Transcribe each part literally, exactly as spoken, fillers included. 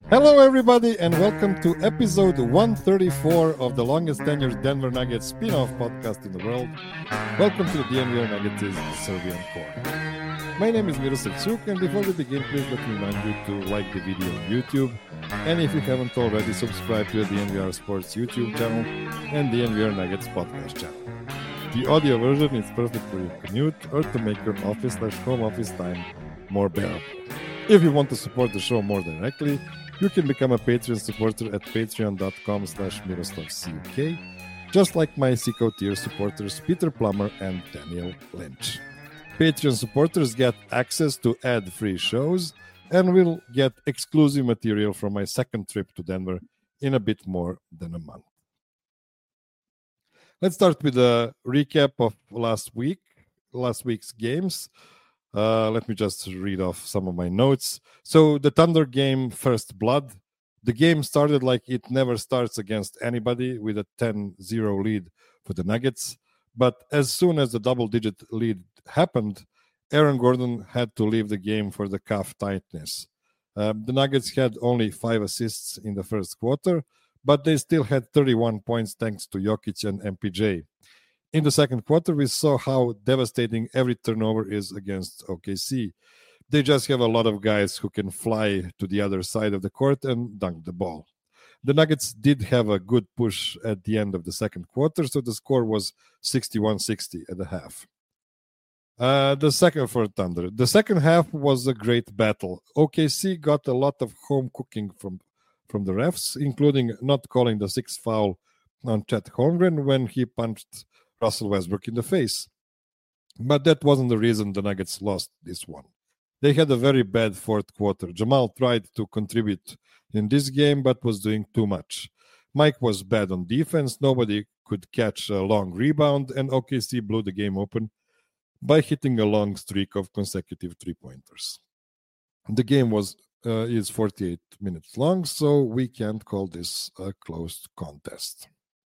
Hello, everybody, and welcome to episode one thirty-four of the longest tenured Denver Nuggets spin-off podcast in the world. Welcome to the D N V R Nuggets Serbian Core. My name is Miroslav Cuk, and before we begin, please let me remind you to like the video on YouTube, and if you haven't already, subscribe to the D N V R Sports YouTube channel and D N V R Nuggets podcast channel. The audio version is perfect for your commute or to make your office slash home office time more bearable. If you want to support the show more directly, you can become a Patreon supporter at patreon.com slash MiroslavCuk, just like my Seco tier supporters Peter Plummer and Daniel Lynch. Patreon supporters get access to ad-free shows and will get exclusive material from my second trip to Denver in a bit more than a month. Let's start with a recap of last week, last week's games. Uh, let me just read off some of my notes. So the Thunder game, First Blood. The game started like it never starts against anybody, with a ten zero lead for the Nuggets. But as soon as the double-digit lead happened, Aaron Gordon had to leave the game for the calf tightness. Uh, the Nuggets had only five assists in the first quarter, but they still had thirty-one points thanks to Jokic and M P J. In the second quarter, we saw how devastating every turnover is against O K C. They just have a lot of guys who can fly to the other side of the court and dunk the ball. The Nuggets did have a good push at the end of the second quarter, so the score was sixty-one sixty at the half. Uh, the second for Thunder. The second half was a great battle. O K C got a lot of home cooking from, from the refs, including not calling the sixth foul on Chet Holmgren when he punched Russell Westbrook in the face. But that wasn't the reason the Nuggets lost this one. They had a very bad fourth quarter. Jamal tried to contribute in this game, but was doing too much. Mike was bad on defense. Nobody could catch a long rebound, and O K C blew the game open by hitting a long streak of consecutive three-pointers. The game was uh, is forty-eight minutes long, so we can't call this a closed contest.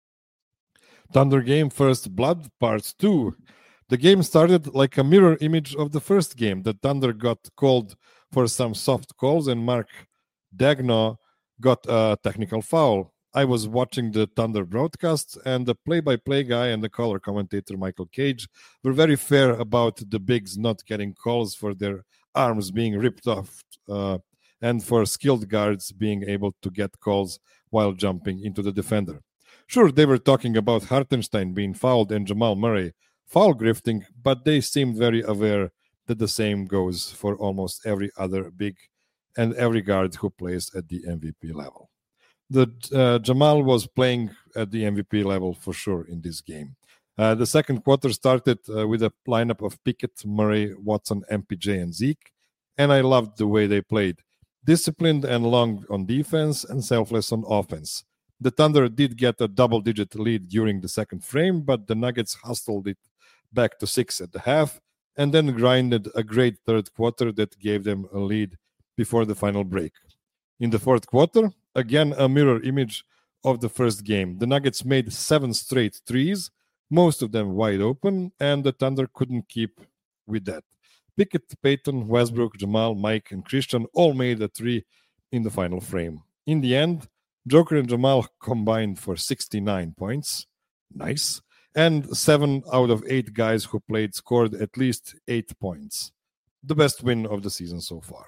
Thunder game, First Blood, Part two. The game started like a mirror image of the first game. The Thunder got called for some soft calls, and Mark Daigneault got a technical foul. I was watching the Thunder broadcast, and the play-by-play guy and the color commentator, Michael Cage, were very fair about the bigs not getting calls for their arms being ripped off uh, and for skilled guards being able to get calls while jumping into the defender. Sure, they were talking about Hartenstein being fouled and Jamal Murray foul grifting, but they seemed very aware that the same goes for almost every other big and every guard who plays at the M V P level. The uh, Jamal was playing at the M V P level for sure in this game. Uh, the second quarter started uh, with a lineup of Pickett, Murray, Watson, M P J, and Zeke, and I loved the way they played. Disciplined and long on defense and selfless on offense. The Thunder did get a double-digit lead during the second frame, but the Nuggets hustled it back to six at the half and then grinded a great third quarter that gave them a lead before the final break. In the fourth quarter, again a mirror image of the first game. The Nuggets made seven straight threes, most of them wide open, and the Thunder couldn't keep with that. Pickett, Payton, Westbrook, Jamal, Mike, and Christian all made a three in the final frame. In the end, Joker and Jamal combined for sixty-nine points. Nice. And seven out of eight guys who played scored at least eight points. The best win of the season so far.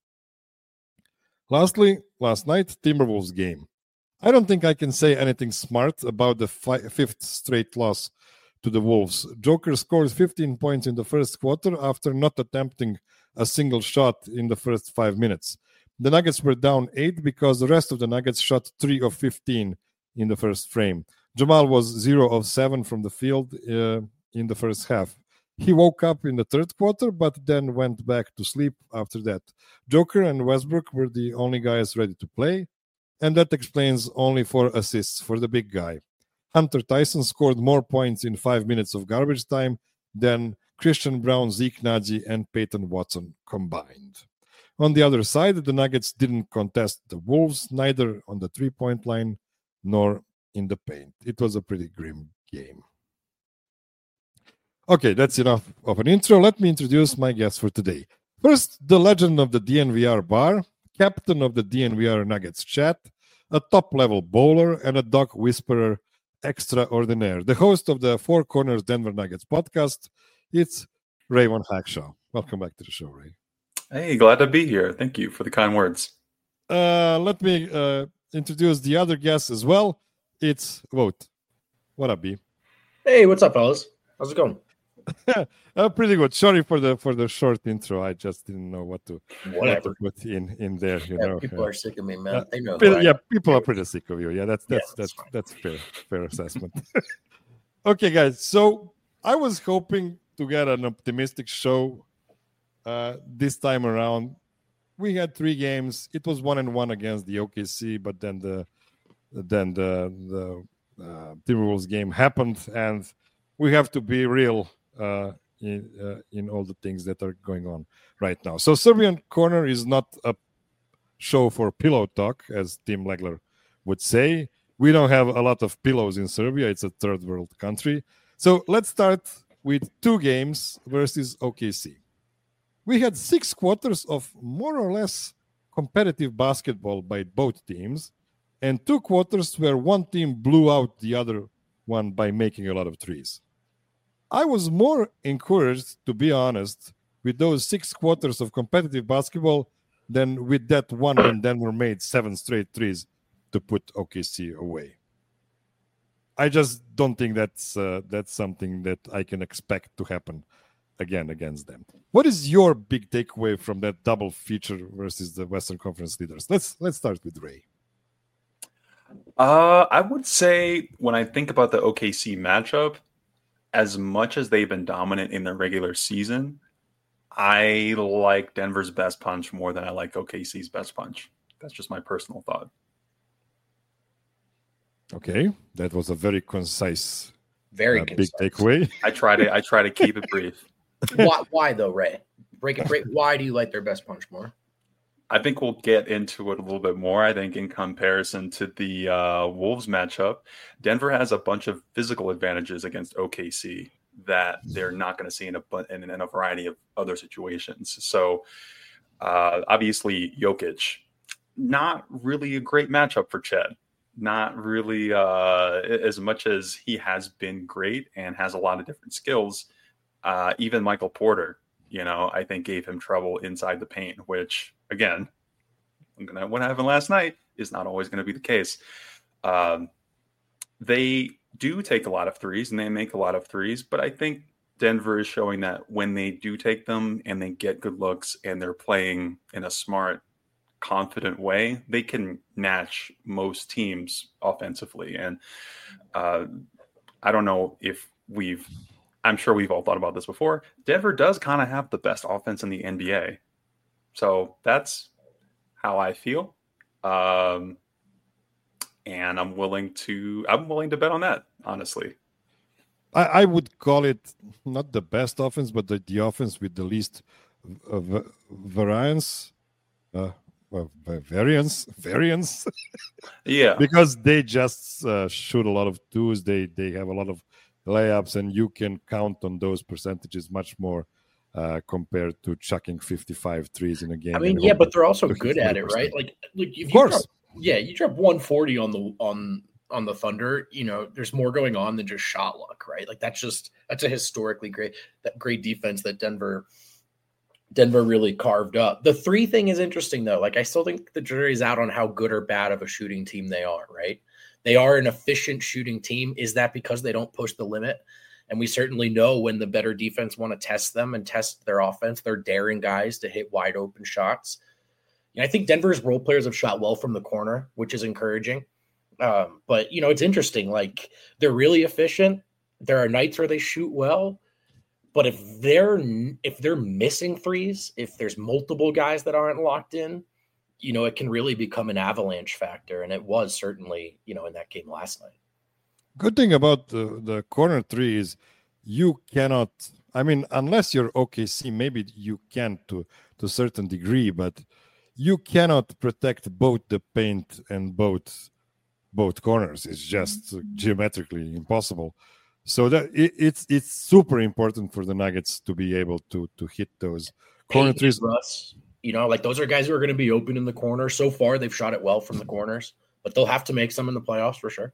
Lastly, last night, Timberwolves game. I don't think I can say anything smart about the fi- fifth straight loss to the Wolves. Joker scored fifteen points in the first quarter after not attempting a single shot in the first five minutes. The Nuggets were down eight because the rest of the Nuggets shot three of fifteen in the first frame. Jamal was zero of seven from the field uh, in the first half. He woke up in the third quarter, but then went back to sleep after that. Joker and Westbrook were the only guys ready to play, and that explains only four assists for the big guy. Hunter Tyson scored more points in five minutes of garbage time than Christian Brown, Zeke Naji, and Peyton Watson combined. On the other side, the Nuggets didn't contest the Wolves, neither on the three-point line nor in the paint. It was a pretty grim game. Okay, that's enough of an intro. Let me introduce my guest for today. First, the legend of the D N V R bar, captain of the D N V R Nuggets chat, a top-level bowler, and a dog whisperer extraordinaire. The host of the Four Corners Denver Nuggets podcast, it's Raymond Hackshaw. Welcome back to the show, Ray. Hey, glad to be here. Thank you for the kind words. Uh, let me uh, introduce the other guest as well. It's Vote. What up, B? Hey, what's up, fellas? How's it going? uh, pretty good. Sorry for the for the short intro. I just didn't know what to, what to put in, in there. You yeah, know, people uh, are sick of me, man. They know. People, yeah, people are pretty sick of you. Yeah, that's that's yeah, that's that's, that's fair fair assessment. Okay, guys. So I was hoping to get an optimistic show uh, this time around. We had three games. It was one and one against the O K C, but then the then the the uh, Timberwolves game happened, and we have to be real. Uh, in uh, in all the things that are going on right now. So Serbian Corner is not a show for pillow talk, as Tim Legler would say. We don't have a lot of pillows in Serbia. It's a third world country. So let's start with two games versus O K C. We had six quarters of more or less competitive basketball by both teams, and two quarters where one team blew out the other one by making a lot of threes. I was more encouraged, to be honest, with those six quarters of competitive basketball than with that one when Denver made seven straight threes to put O K C away. I just don't think that's uh, that's something that I can expect to happen again against them. What is your big takeaway from that double feature versus the Western Conference leaders? Let's let's start with Ray. Uh, I would say when I think about the O K C matchup, as much as they've been dominant in the regular season, I like Denver's best punch more than I like O K C's best punch. That's just my personal thought. Okay, that was a very concise, very uh, concise. big takeaway. I try to I try to keep it brief. Why, why though, Ray? Break it, break. Why do you like their best punch more? I think we'll get into it a little bit more. I think in comparison to the uh, Wolves matchup, Denver has a bunch of physical advantages against O K C that they're not going to see in a, in, in a variety of other situations. So uh, obviously Jokic, not really a great matchup for Chet. Not really uh, as much as he has been great and has a lot of different skills. Uh, even Michael Porter, you know, I think gave him trouble inside the paint, which, again, gonna, what happened last night is not always going to be the case. Um, they do take a lot of threes and they make a lot of threes, but I think Denver is showing that when they do take them and they get good looks and they're playing in a smart, confident way, they can match most teams offensively. And uh, I don't know if we've I'm sure we've all thought about this before. Denver does kind of have the best offense in the N B A. So that's how I feel. Um, and I'm willing to I'm willing to bet on that, honestly. I, I would call it not the best offense, but the, the offense with the least uh, variance. Uh, well, variance, variance. Yeah. Because they just uh, shoot a lot of twos. They, they have a lot of layups, and you can count on those percentages much more uh, compared to chucking fifty-five threes in a game. I mean, yeah, but they're also good at it, right? Like, like if of you course, drop, yeah, you drop one forty on the on on the Thunder. You know, there's more going on than just shot luck, right? Like that's just that's a historically great that great defense that Denver Denver really carved up. The three thing is interesting though. Like I still think the jury's out on how good or bad of a shooting team they are, right? They are an efficient shooting team. Is that because they don't push the limit? And we certainly know when the better defense want to test them and test their offense, they're daring guys to hit wide open shots. And I think Denver's role players have shot well from the corner, which is encouraging. Um, but, you know, it's interesting. Like they're really efficient. There are nights where they shoot well. But if they're if they're missing threes, if there's multiple guys that aren't locked in, you know, it can really become an avalanche factor. And it was certainly, you know, in that game last night. Good thing about the, the corner three is you cannot, I mean, unless you're O K C, maybe you can to, to a certain degree, but you cannot protect both the paint and both both corners. It's just geometrically impossible. So that it, it's it's super important for the Nuggets to be able to to hit those corner threes. Russ. You know, like those are guys who are going to be open in the corner. So far, they've shot it well from the corners, but they'll have to make some in the playoffs for sure.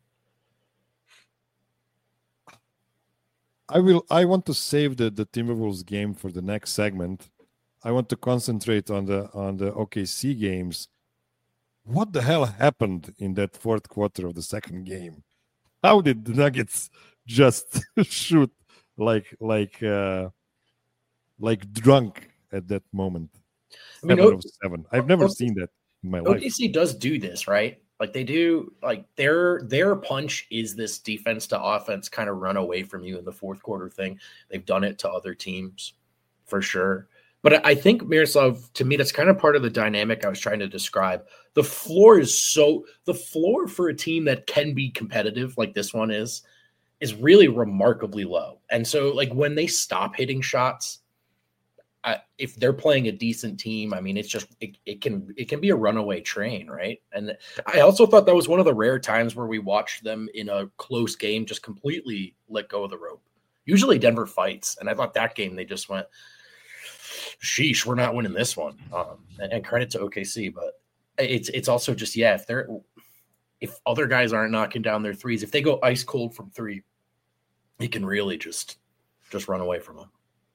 I will. I want to save the, the Timberwolves game for the next segment. I want to concentrate on the on the O K C games. What the hell happened in that fourth quarter of the second game? How did the Nuggets just shoot like like uh, like drunk at that moment? I mean, seven o- of seven. I've never o- seen that in my life. O K C does do this, right? Like they do, like their their punch is this defense to offense kind of run away from you in the fourth quarter thing. They've done it to other teams for sure. But I think, Miroslav, to me, that's kind of part of the dynamic I was trying to describe. The floor is so the floor for a team that can be competitive like this one is, is really remarkably low. And so like when they stop hitting shots, I, if they're playing a decent team, I mean, it's just it, it can it can be a runaway train, right? And I also thought that was one of the rare times where we watched them in a close game just completely let go of the rope. Usually Denver fights, and I thought that game they just went, sheesh, we're not winning this one. Um, and, and credit to O K C, but it's it's also just yeah, if they're if other guys aren't knocking down their threes, if they go ice cold from three, it can really just just run away from them.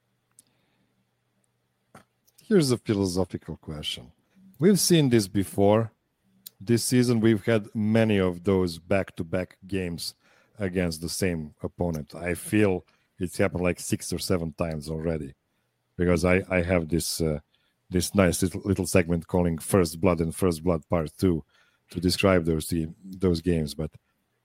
Here's a philosophical question. We've seen this before. This season, we've had many of those back-to-back games against the same opponent. I feel it's happened like six or seven times already, because I, I have this uh, this nice little, little segment calling First Blood and First Blood Part two to describe those team, those games. But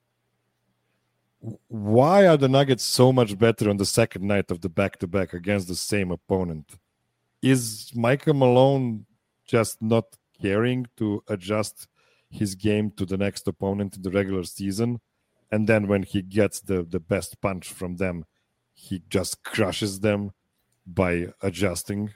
why are the Nuggets so much better on the second night of the back-to-back against the same opponent? Is Michael Malone just not caring to adjust his game to the next opponent in the regular season? And then when he gets the, the best punch from them, he just crushes them by adjusting?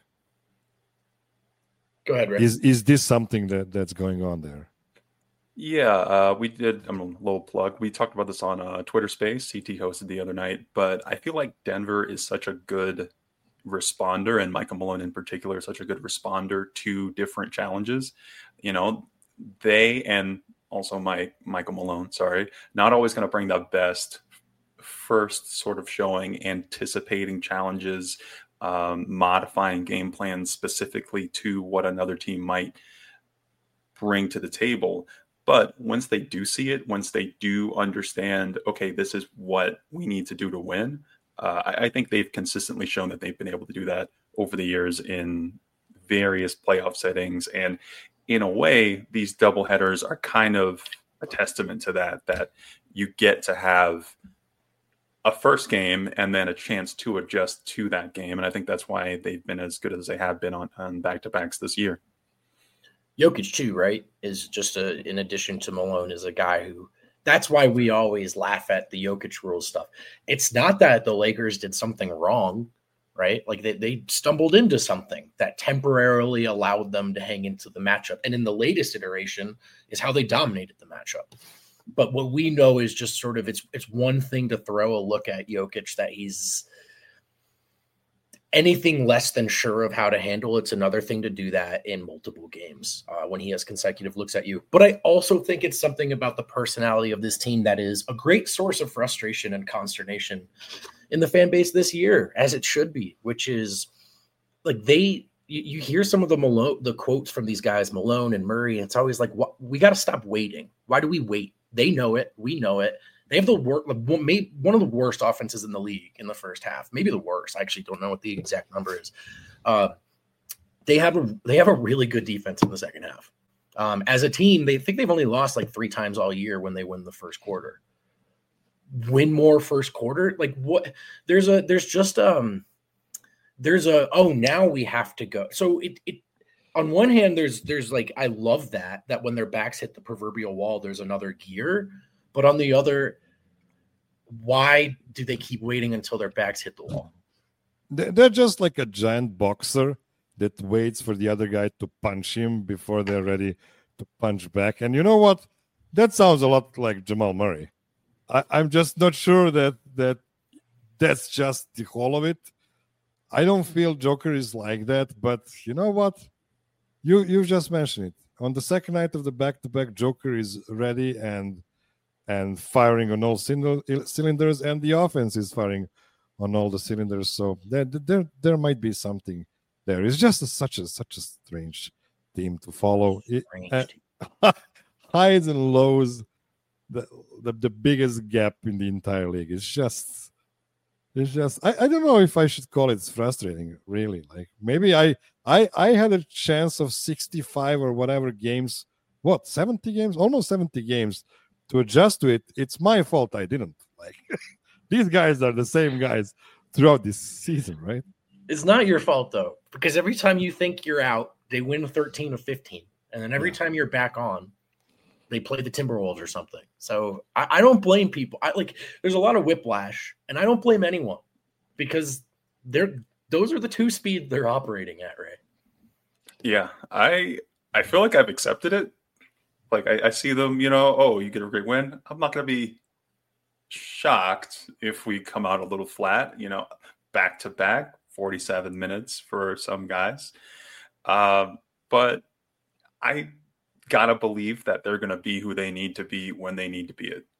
Go ahead, Rick. Is is this something that, that's going on there? Yeah, uh, we did. I'm a little plug. We talked about this on uh, Twitter Space. C T hosted the other night, but I feel like Denver is such a good responder, and Michael Malone in particular is such a good responder to different challenges. You know, they and also my Michael Malone, sorry, not always going to bring the best first sort of showing, anticipating challenges, um, modifying game plans specifically to what another team might bring to the table. But once they do see it, once they do understand, okay, this is what we need to do to win, Uh, I, I think they've consistently shown that they've been able to do that over the years in various playoff settings. And in a way, these doubleheaders are kind of a testament to that, that you get to have a first game and then a chance to adjust to that game. And I think that's why they've been as good as they have been on, on back-to-backs this year. Jokic, too, right, is just a, in addition to Malone, is a guy who – that's why we always laugh at the Jokic rules stuff. It's not that the Lakers did something wrong, right? Like they, they stumbled into something that temporarily allowed them to hang into the matchup. And in the latest iteration is how they dominated the matchup. But what we know is just sort of it's it's one thing to throw a look at Jokic that he's anything less than sure of how to handle. It's another thing to do that in multiple games uh, when he has consecutive looks at you. But I also think it's something about the personality of this team that is a great source of frustration and consternation in the fan base this year, as it should be, which is like they, you, you hear some of the Malone, the quotes from these guys, Malone and Murray. And it's always like, what, we got to stop waiting. Why do we wait? They know it. We know it. They have the work, one of the worst offenses in the league in the first half, maybe the worst. I actually don't know what the exact number is. Uh, they have a they have a really good defense in the second half. Um, as a team, they think they've only lost like three times all year when they win the first quarter. Win more first quarter, like what? There's a there's just um there's a oh now we have to go. So it it on one hand there's there's like I love that that when their backs hit the proverbial wall, there's another gear. But on the other, why do they keep waiting until their backs hit the wall? They're just like a giant boxer that waits for the other guy to punch him before they're ready to punch back. And you know what? That sounds a lot like Jamal Murray. I, I'm just not sure that that that's just the whole of it. I don't feel Joker is like that, but you know what? you you just mentioned it. On the second night of the back-to-back, Joker is ready and and firing on all cylinders, and the offense is firing on all the cylinders. So there there there might be something there. It's just a, such a such a strange team to follow. It, uh, highs and lows, the, the the biggest gap in the entire league. It's just it's just I, I don't know if I should call it frustrating, really. Like maybe I I I had a chance of sixty-five or whatever games, what, seventy games, almost seventy games to adjust to it. It's my fault I didn't. Like these guys are the same guys throughout this season, right? It's not your fault though, because every time you think you're out, they win thirteen of fifteen. And then every yeah. time you're back on, they play the Timberwolves or something. So I, I don't blame people. I like there's a lot of whiplash, and I don't blame anyone because they're those are the two speeds they're operating at, Ray. Yeah, I I feel like I've accepted it. Like I, I see them, you know, oh, you get a great win. I'm not gonna be shocked if we come out a little flat, you know, back to back, forty-seven minutes for some guys. Um, but I gotta believe that they're gonna be who they need to be when they need to be it.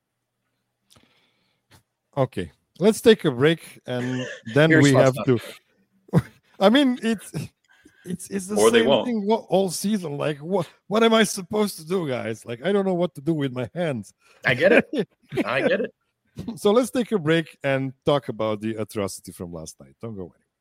Okay, let's take a break, and then Here's we have stuff. to. I mean, it's it's it's the Or they same won't. thing all season. Like, what what am I supposed to do, guys? Like, I don't know what to do with my hands. I get it. I get it. So let's take a break and talk about the atrocity from last night. Don't go anywhere.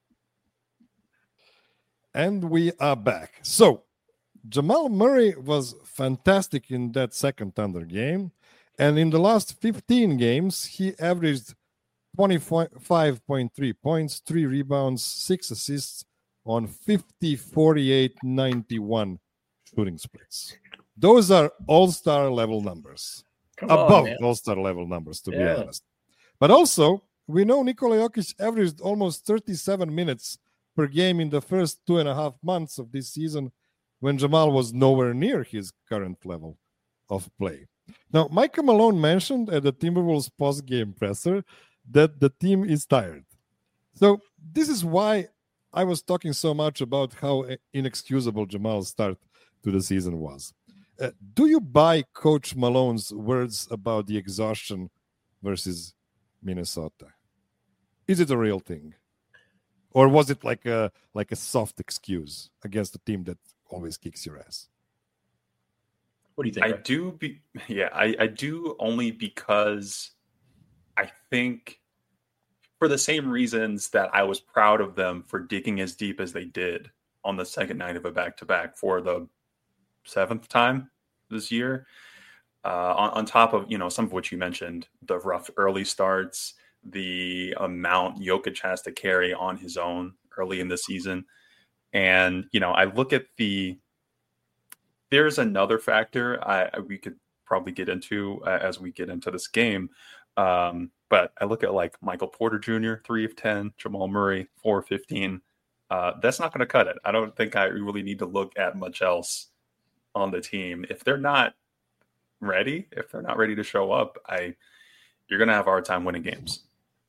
And we are back. So Jamal Murray was fantastic in that second Thunder game. And in the last fifteen games, he averaged twenty-five point three points, three rebounds, six assists on fifty, forty-eight, ninety-one shooting splits. Those are all-star level numbers. Come Above on, all-star level numbers, to Yeah. be honest. But also, we know Nikola Jokic averaged almost thirty-seven minutes per game in the first two and a half months of this season when Jamal was nowhere near his current level of play. Now, Michael Malone mentioned at the Timberwolves post-game presser that the team is tired. So this is why I was talking so much about how inexcusable Jamal's start to the season was. Uh, do you buy Coach Malone's words about the exhaustion versus Minnesota? Is it a real thing? Or was it like a like a soft excuse against a team that always kicks your ass? What do you think? I Ray? do be yeah, I, I do only because I think for the same reasons that I was proud of them for digging as deep as they did on the second night of a back-to-back for the seventh time this year. Uh, on, on top of, you know, some of what you mentioned, the rough early starts, the amount Jokic has to carry on his own early in the season. And, you know, I look at the, there's another factor I we could probably get into uh, as we get into this game. Um, but I look at like Michael Porter Junior, three of ten, Jamal Murray, four of fifteen. Uh, that's not going to cut it. I don't think I really need to look at much else on the team. If they're not ready, if they're not ready to show up, I you're going to have a hard time winning games.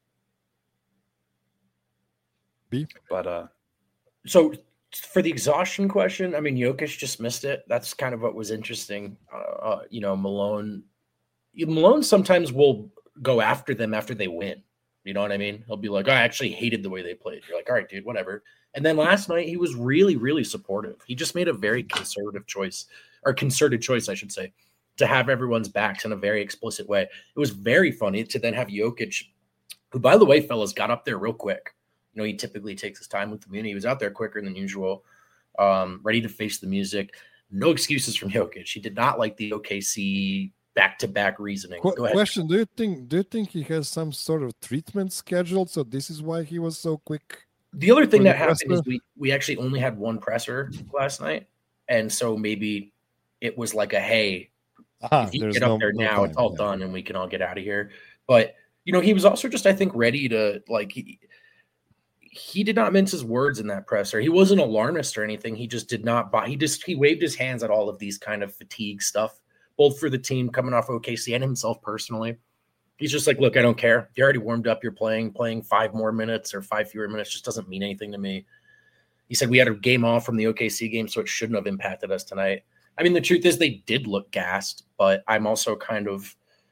B? But uh, So for the exhaustion question, I mean, Jokic just missed it. That's kind of what was interesting. Uh, uh, you know, Malone, Malone sometimes will go after them after they win. You know what I mean? He'll be like, I actually hated the way they played. You're like, all right, dude, whatever. And then last night, he was really, really supportive. He just made a very conservative choice, or concerted choice, I should say, to have everyone's backs in a very explicit way. It was very funny to then have Jokic, who, by the way, fellas, got up there real quick. You know, he typically takes his time with the community. He was out there quicker than usual, um, ready to face the music. No excuses from Jokic. He did not like the O K C back-to-back reasoning. Qu- Go ahead. question: Do you think do you think he has some sort of treatment scheduled? So this is why he was so quick. The other thing For the that happened is presser? we we actually only had one presser last night, and so maybe it was like a hey, Ah, if you there's get up no- there no now, time, it's all yeah. done, and we can all get out of here. But you know, he was also just, I think, ready to like. He, he did not mince his words in that presser. He wasn't alarmist or anything. He just did not buy. He just he waved his hands at all of these kind of fatigue stuff, both for the team coming off O K C and himself personally. He's just like, look, I don't care. If you already warmed up, you're playing. Playing five more minutes or five fewer minutes just doesn't mean anything to me. He said we had a game off from the O K C game, so it shouldn't have impacted us tonight. I mean, the truth is they did look gassed, but I'm also kind of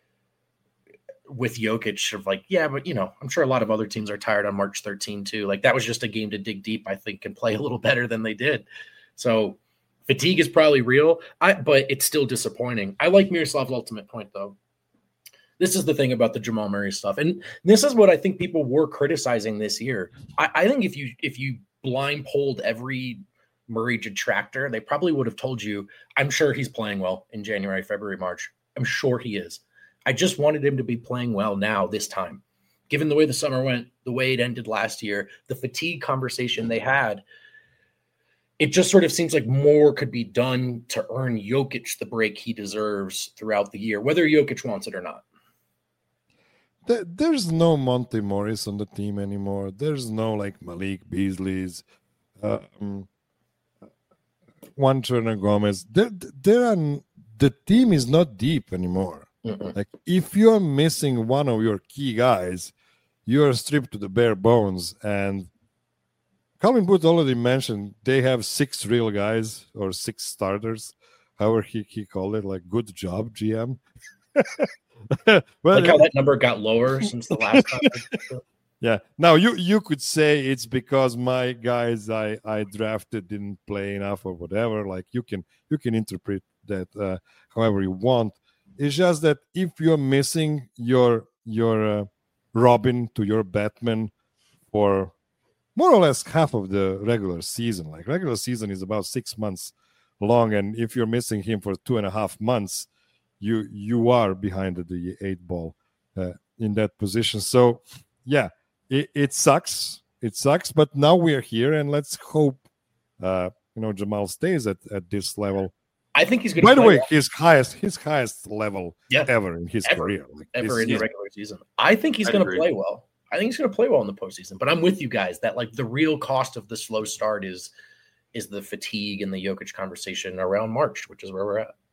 with Jokic of like, yeah, but, you know, I'm sure a lot of other teams are tired on March thirteenth too. Like, that was just a game to dig deep, I think, and play a little better than they did. So fatigue is probably real, I, but it's still disappointing. I like Miroslav's ultimate point, though. This is the thing about the Jamal Murray stuff. And this is what I think people were criticizing this year. I, I think if you if you blind polled every Murray detractor, they probably would have told you, I'm sure he's playing well in January, February, March. I'm sure he is. I just wanted him to be playing well now, this time. Given the way the summer went, the way it ended last year, the fatigue conversation they had, it just sort of seems like more could be done to earn Jokic the break he deserves throughout the year, whether Jokic wants it or not. There's no Monte Morris on the team anymore. There's no like Malik Beasley's, um, Juan Turner Gomez. There, there are, the team is not deep anymore. Mm-mm. Like if you're missing one of your key guys, you're stripped to the bare bones. And Calvin Booth already mentioned they have six real guys or six starters, however he, he called it. Like, good job, G M. Well, like how that number got lower since the last time. Yeah. Now you you could say it's because my guys I, I drafted didn't play enough or whatever. Like you can you can interpret that uh, however you want. It's just that if you're missing your your uh, Robin to your Batman for more or less half of the regular season, like regular season is about six months long, and if you're missing him for two and a half months, you you are behind the eight ball uh, in that position. So yeah, it, it sucks. It sucks. But now we are here, and let's hope uh, you know Jamal stays at, at this level. I think he's going to. By the way, well. his highest his highest level yeah. ever in his ever. career, like ever this, in the regular season. I think he's going to play well. I think he's going to play well in the postseason. But I'm with you guys that like the real cost of the slow start is is the fatigue and the Jokic conversation around March, which is where we're at.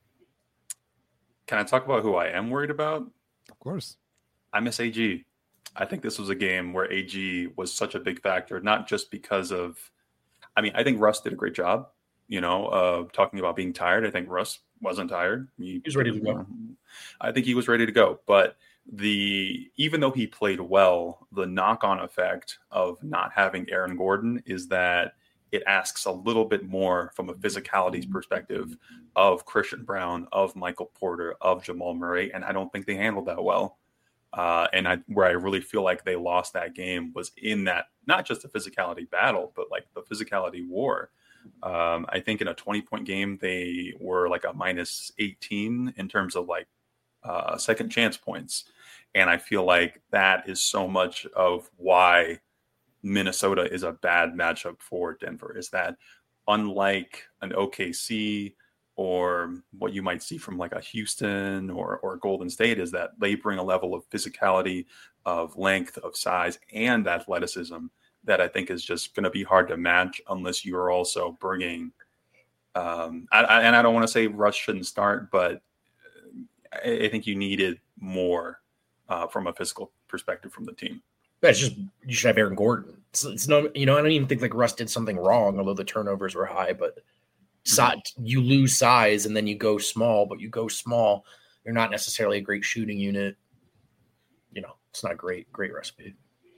Can I talk about who I am worried about? Of course. I miss A G. I think this was a game where A G was such a big factor, not just because of, I mean, I think Russ did a great job, you know, uh, talking about being tired. I think Russ wasn't tired. He, he was ready to go. I think he was ready to go. But the even though he played well, the knock-on effect of not having Aaron Gordon is that it asks a little bit more from a physicality perspective of Christian Brown, of Michael Porter, of Jamal Murray, and I don't think they handled that well. Uh, and I, where I really feel like they lost that game was in that, not just the physicality battle, but like the physicality war. Um, I think in a twenty-point game, they were like a minus eighteen in terms of like uh, second chance points. And I feel like that is so much of why Minnesota is a bad matchup for Denver, is that unlike an O K C or what you might see from like a Houston or, or Golden State, is that they bring a level of physicality, of length, of size, and athleticism that I think is just going to be hard to match unless you're also bringing um, I, I, and I don't want to say Russ shouldn't start, but I, I think you needed more uh, from a physical perspective from the team. It's just you should have Aaron Gordon. It's, it's no, you know, I don't even think like Russ did something wrong, although the turnovers were high. But size, you lose size and then you go small, but you go small. You're not necessarily a great shooting unit. You know, it's not a great, great recipe.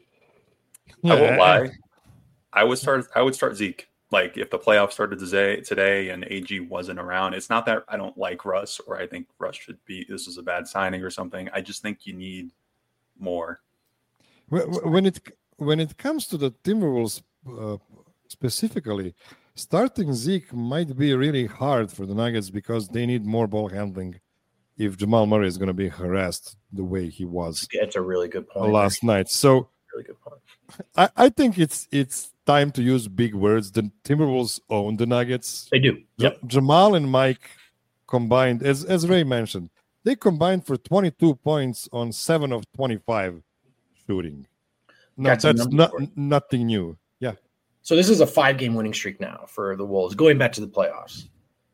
I won't lie. I would start. I would start Zeke. Like if the playoffs started today, today, and A G wasn't around. It's not that I don't like Russ or I think Russ should be. This is a bad signing or something. I just think you need more. When it when it comes to the Timberwolves uh, specifically, starting Zeke might be really hard for the Nuggets because they need more ball handling if Jamal Murray is going to be harassed the way he was. That's a really good point last night. So really good point. I, I think it's it's time to use big words. The Timberwolves own the Nuggets. They do. Yep. Jamal and Mike combined, as as Ray mentioned, they combined for twenty-two points on seven of twenty-five. Shooting. No, that's, that's not, nothing new. Yeah. So this is a five-game winning streak now for the Wolves, going back to the playoffs.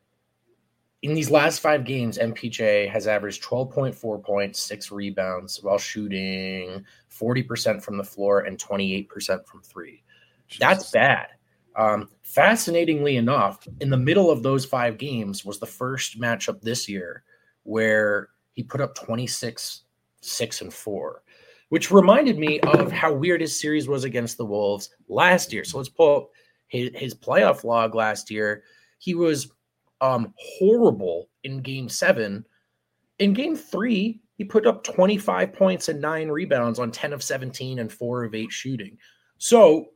In these last five games, M P J has averaged twelve point four points, six rebounds, while shooting forty percent from the floor and twenty-eight percent from three. Jesus. That's bad. Um, fascinatingly enough, in the middle of those five games was the first matchup this year where he put up twenty-six, six, and four, which reminded me of how weird his series was against the Wolves last year. So let's pull up his, his playoff log last year. He was um, horrible in game seven. In game three, he put up twenty-five points and nine rebounds on ten of seventeen and four of eight shooting. So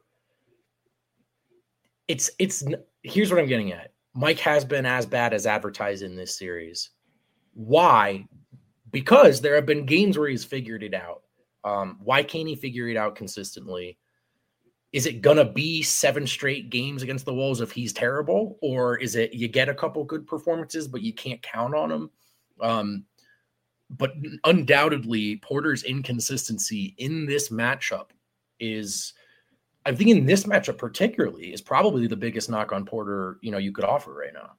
it's, it's, here's what I'm getting at. Mike has been as bad as advertised in this series. Why? Because there have been games where he's figured it out. Um, why can't he figure it out consistently? Is it going to be seven straight games against the Wolves if he's terrible? Or is it you get a couple good performances, but you can't count on him? Um, but undoubtedly, Porter's inconsistency in this matchup is, I think in this matchup particularly, is probably the biggest knock on Porter, you know, you could offer right now.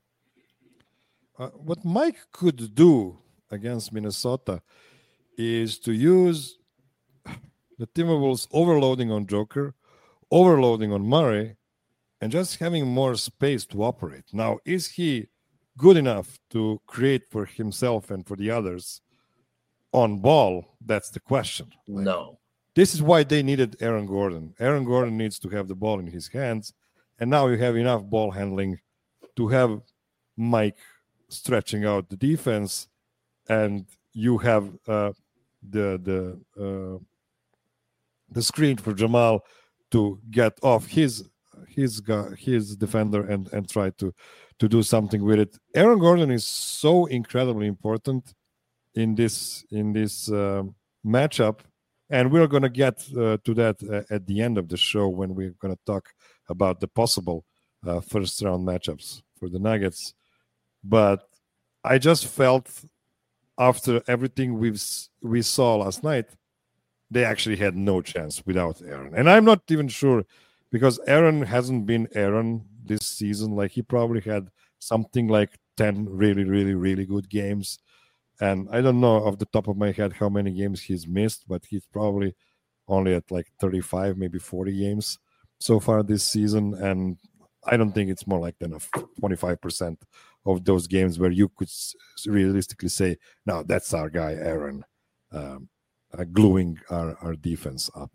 Uh, what Mike could do against Minnesota is to use the Timberwolves overloading on Joker, overloading on Murray, and just having more space to operate. Now, is he good enough to create for himself and for the others on ball? That's the question. Like, no. This is why they needed Aaron Gordon. Aaron Gordon needs to have the ball in his hands, and now you have enough ball handling to have Mike stretching out the defense, and you have uh, the the uh, the screen for Jamal to get off his his guy, his defender and and try to to do something with it. Aaron Gordon is so incredibly important in this in this uh, matchup, and we're going to get uh, to that uh, at the end of the show when we're going to talk about the possible uh, first round matchups for the Nuggets. But I just felt after everything we've we saw last night, they actually had no chance without Aaron. And I'm not even sure, because Aaron hasn't been Aaron this season. Like, he probably had something like ten really, really, really good games. And I don't know off the top of my head how many games he's missed, but he's probably only at like thirty-five, maybe forty games so far this season. And I don't think it's more like than a twenty-five percent of those games where you could realistically say, no, that's our guy, Aaron, um, uh, gluing our, our defense up.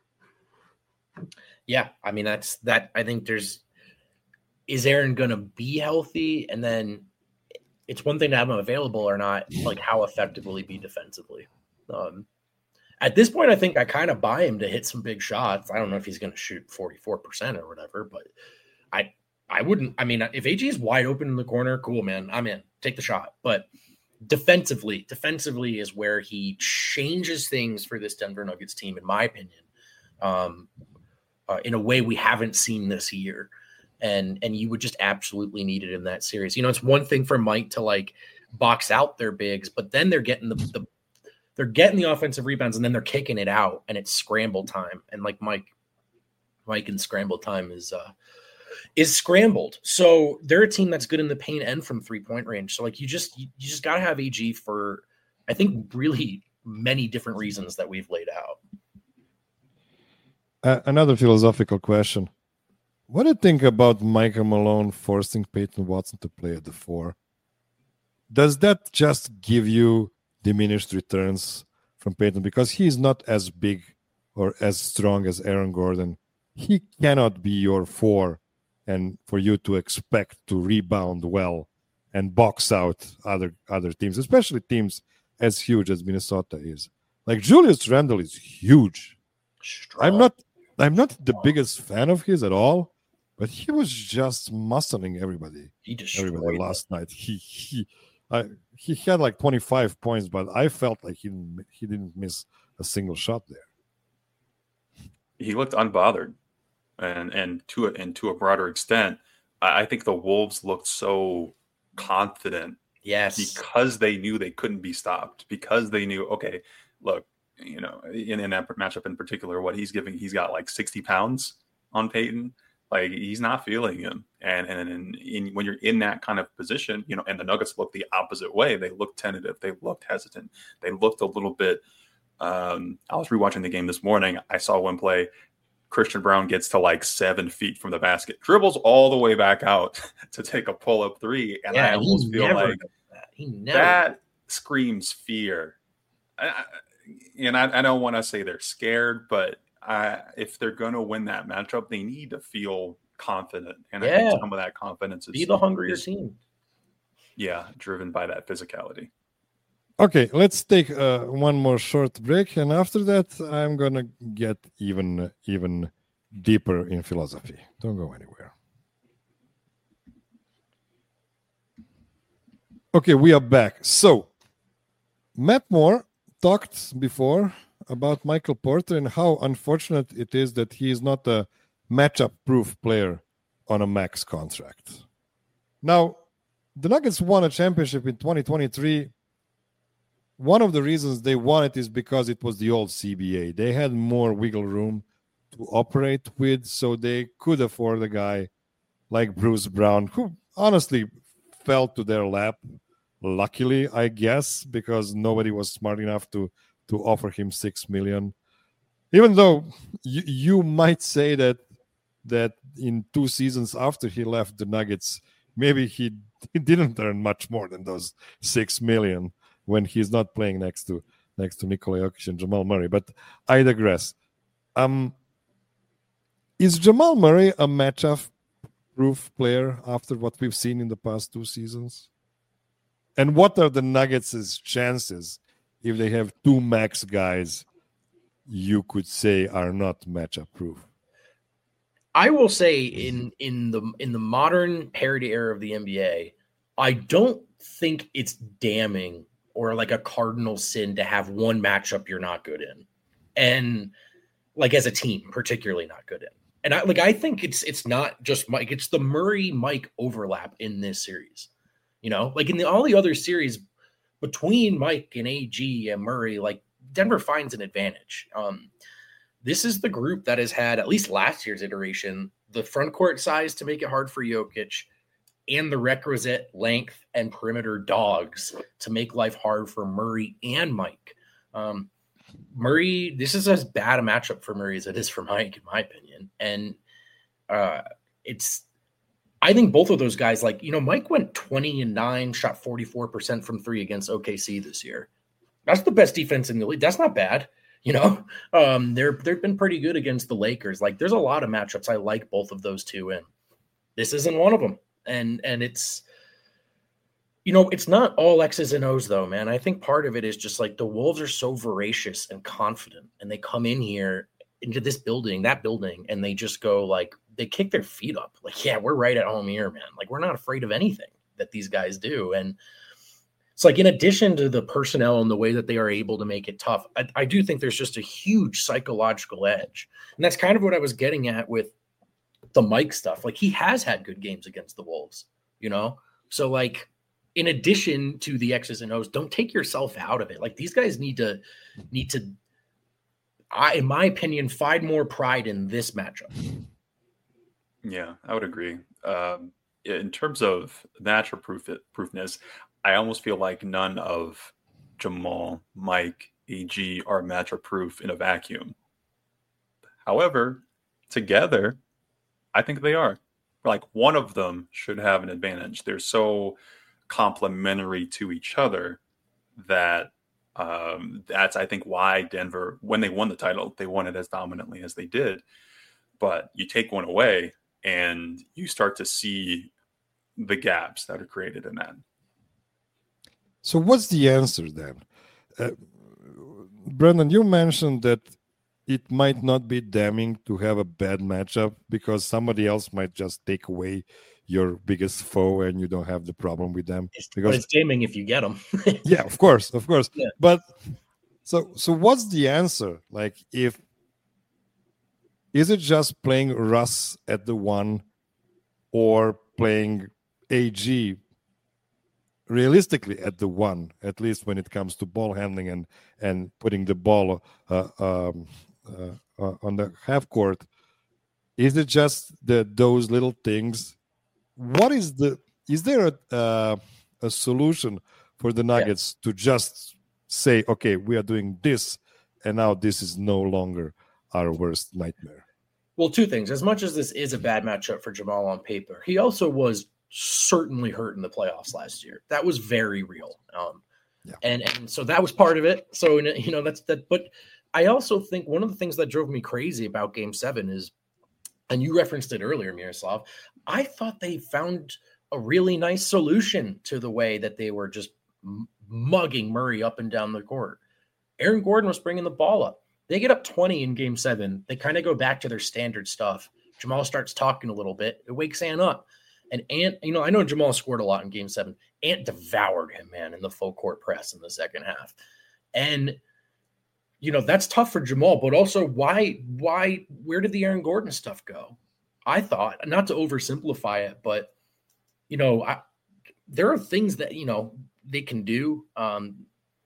Yeah, I mean, that's that. I think there's, is Aaron going to be healthy? And then it's one thing to have him available or not, like how effective will he be defensively? Um, at this point, I think I kind of buy him to hit some big shots. I don't know if he's going to shoot forty-four percent or whatever, but I I wouldn't. I mean, if A G is wide open in the corner, cool, man. I'm in. Take the shot. But defensively, defensively is where he changes things for this Denver Nuggets team, in my opinion, um, uh, in a way we haven't seen this year. And and you would just absolutely need it in that series. You know, it's one thing for Mike to like box out their bigs, but then they're getting the, the they're getting the offensive rebounds, and then they're kicking it out, and it's scramble time. And like Mike, Mike and scramble time is uh, is scrambled. So they're a team that's good in the paint and from three point range. So like you just you, you just gotta have A G for, I think, really many different reasons that we've laid out. Uh, another philosophical question. What do you think about Michael Malone forcing Peyton Watson to play at the four? Does that just give you diminished returns from Peyton? Because he's not as big or as strong as Aaron Gordon. He cannot be your four, and for you to expect to rebound well and box out other, other teams, especially teams as huge as Minnesota is. Like, Julius Randle is huge. Strong. I'm not I'm not the biggest fan of his at all. But he was just muscling everybody. He destroyed everybody last night. He he, I, he had like twenty-five points, but I felt like he didn't, he didn't miss a single shot there. He looked unbothered, and and to a, and to a broader extent, I, I think the Wolves looked so confident. Yes, because they knew they couldn't be stopped. Because they knew, okay, look, you know, in, in that matchup in particular, what he's giving, he's got like sixty pounds on Peyton. Like, he's not feeling him. And and, and in, when you're in that kind of position, you know, and the Nuggets looked the opposite way. They looked tentative. They looked hesitant. They looked a little bit. Um, I was rewatching the game this morning. I saw one play. Christian Braun gets to like seven feet from the basket, dribbles all the way back out to take a pull-up three, and Yeah, I almost feel like that. He never that screams fear. I, and I, I don't want to say they're scared, but I, if they're going to win that matchup, they need to feel confident, and Yeah. I think some of that confidence is be the hungrier is, team. Yeah, driven by that physicality. Okay, let's take uh, one more short break, and after that, I'm gonna get even even deeper in philosophy. Don't go anywhere. Okay, we are back. So, Matt Moore talked before about Michael Porter and how unfortunate it is that he is not a matchup-proof player on a max contract. Now, the Nuggets won a championship in twenty twenty-three. One of the reasons they won it is because it was the old C B A. They had more wiggle room to operate with, so they could afford a guy like Bruce Brown, who honestly fell to their lap, luckily, I guess, because nobody was smart enough to, to offer him six million dollars. Even though you, you might say that that in two seasons after he left the Nuggets, maybe he, he didn't earn much more than those six million dollars. When he's not playing next to next to Nikola Jokic and Jamal Murray. But I digress. Um, is Jamal Murray a matchup-proof player after what we've seen in the past two seasons? And what are the Nuggets' chances if they have two max guys you could say are not matchup-proof? I will say in in the in the modern parity era of the N B A, I don't think it's damning or like a cardinal sin to have one matchup you're not good in, and like as a team, particularly not good in. And I like I think it's it's not just Mike; it's the Murray Mike overlap in this series. You know, like in the, all the other series between Mike and A G and Murray, like Denver finds an advantage. Um, this is the group that has had, at least last year's iteration, the front court size to make it hard for Jokic, and the requisite length and perimeter dogs to make life hard for Murray and Mike. Um, Murray, this is as bad a matchup for Murray as it is for Mike, in my opinion. And uh, it's, I think both of those guys, like, you know, Mike went twenty and nine, shot forty-four percent from three against O K C this year. That's the best defense in the league. That's not bad. You know, um, they're, they've been pretty good against the Lakers. Like, there's a lot of matchups I like both of those two in. This isn't one of them. And and it's, you know, it's not all X's and O's, though, man. I think part of it is just like the Wolves are so voracious and confident, and they come in here into this building, that building, and they just go like, they kick their feet up. Like, yeah, we're right at home here, man. Like, we're not afraid of anything that these guys do. And it's like, in addition to the personnel and the way that they are able to make it tough, I, I do think there's just a huge psychological edge. And that's kind of what I was getting at with the Mike stuff. Like, he has had good games against the Wolves, you know? So, like, in addition to the X's and O's, don't take yourself out of it. Like, these guys need to, need to, I, in my opinion, find more pride in this matchup. Yeah, I would agree. Um, in terms of natural proof proofness, I almost feel like none of Jamal, Mike, A G are matchup proof in a vacuum. However, together, I think they are. Like, one of them should have an advantage. They're so complementary to each other that um, that's, I think, why Denver, when they won the title, they won it as dominantly as they did. But you take one away and you start to see the gaps that are created in that. So what's the answer then? Uh, Brendan, you mentioned that it might not be damning to have a bad matchup because somebody else might just take away your biggest foe and you don't have the problem with them. It's, because but it's damning if you get them. Yeah, of course, of course. Yeah. But so so what's the answer? Like, if is it just playing Russ at the one or playing A G realistically at the one, at least when it comes to ball handling and and putting the ball uh, um, uh, uh, on the half court? Is it just the those little things? What is the is there a uh, a solution for the Nuggets yeah. to just say, okay, we are doing this, and now this is no longer our worst nightmare? Well, two things. As much as this is a bad matchup for Jamal on paper, he also was certainly hurt in the playoffs last year. That was very real. Um, yeah. and, and so that was part of it. So, you know, that's that. But I also think one of the things that drove me crazy about game seven is, and you referenced it earlier, Miroslav, I thought they found a really nice solution to the way that they were just mugging Murray up and down the court. Aaron Gordon was bringing the ball up. They get up twenty in game seven. They kind of go back to their standard stuff. Jamal starts talking a little bit. It wakes Ant up. And Ant, you know, I know Jamal scored a lot in game seven. Ant devoured him, man, in the full court press in the second half. And, you know, that's tough for Jamal, but also why, why, where did the Aaron Gordon stuff go? I thought, not to oversimplify it, but, you know, I, there are things that, you know, they can do. Um,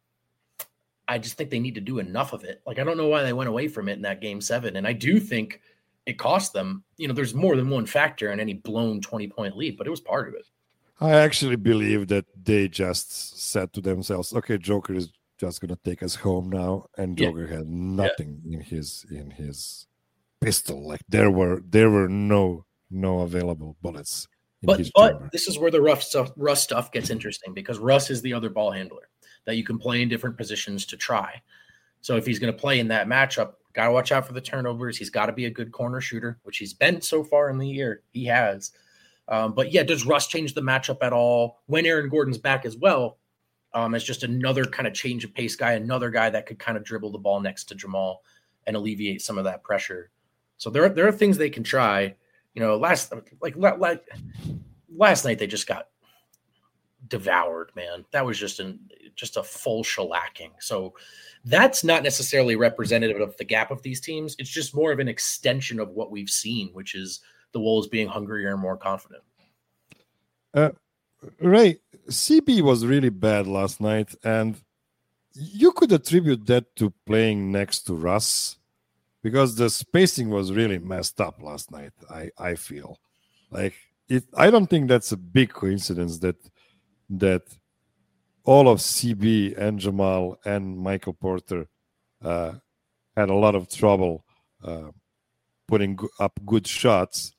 I just think they need to do enough of it. Like, I don't know why they went away from it in that game seven. And I do think it cost them, you know, there's more than one factor in any blown twenty point lead, but it was part of it. I actually believe that they just said to themselves, okay, Joker is just going to take us home now. And Joker yeah. had nothing yeah. in his, in his pistol. Like there were, there were no, no available bullets. In but, his but chamber. This is where the rough stuff, Russ stuff gets interesting because Russ is the other ball handler that you can play in different positions to try. So if he's going to play in that matchup, got to watch out for the turnovers. He's got to be a good corner shooter, which he's been so far in the year. He has. Um, but yeah, does Russ change the matchup at all when Aaron Gordon's back as well? Um, as just another kind of change of pace guy, another guy that could kind of dribble the ball next to Jamal and alleviate some of that pressure. So there, there are things they can try. You know, last like, like last night they just got devoured, man. That was just an just a full shellacking. So that's not necessarily representative of the gap of these teams. It's just more of an extension of what we've seen, which is the Wolves being hungrier and more confident. Uh, Ray, C B was really bad last night, and you could attribute that to playing next to Russ because the spacing was really messed up last night. I, I feel like it. I don't think that's a big coincidence that that all of C B and Jamal and Michael Porter uh, had a lot of trouble uh, putting up good shots,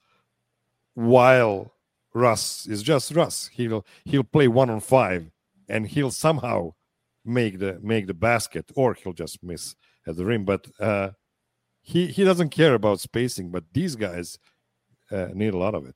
while Russ is just Russ. He'll he'll play one on five, and he'll somehow make the make the basket, or he'll just miss at the rim. But uh, he he doesn't care about spacing. But these guys uh, need a lot of it.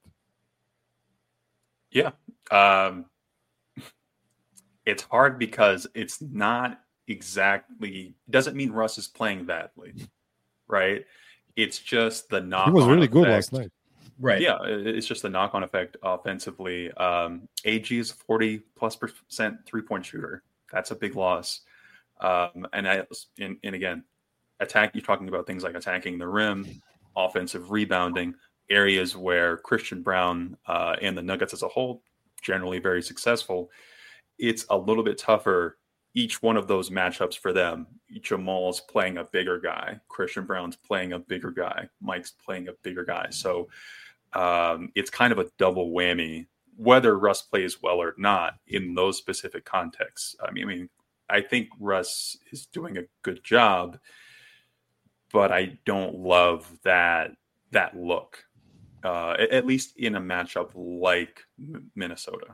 Yeah. Um... It's hard because it's not exactly doesn't mean Russ is playing badly, right? It's just the knock. He was really effect. good last night, right? Yeah, it's just the knock-on effect offensively. Um, A G is forty plus percent three-point shooter. That's a big loss. Um, and I and, and again, attack. You're talking about things like attacking the rim, offensive rebounding, areas where Christian Braun uh, and the Nuggets as a whole generally very successful. It's a little bit tougher, each one of those matchups for them. Jamal's playing a bigger guy. Christian Braun's playing a bigger guy. Mike's playing a bigger guy. So um, it's kind of a double whammy, whether Russ plays well or not in those specific contexts. I mean, I mean, I think Russ is doing a good job, but I don't love that that look, uh, at least in a matchup like Minnesota.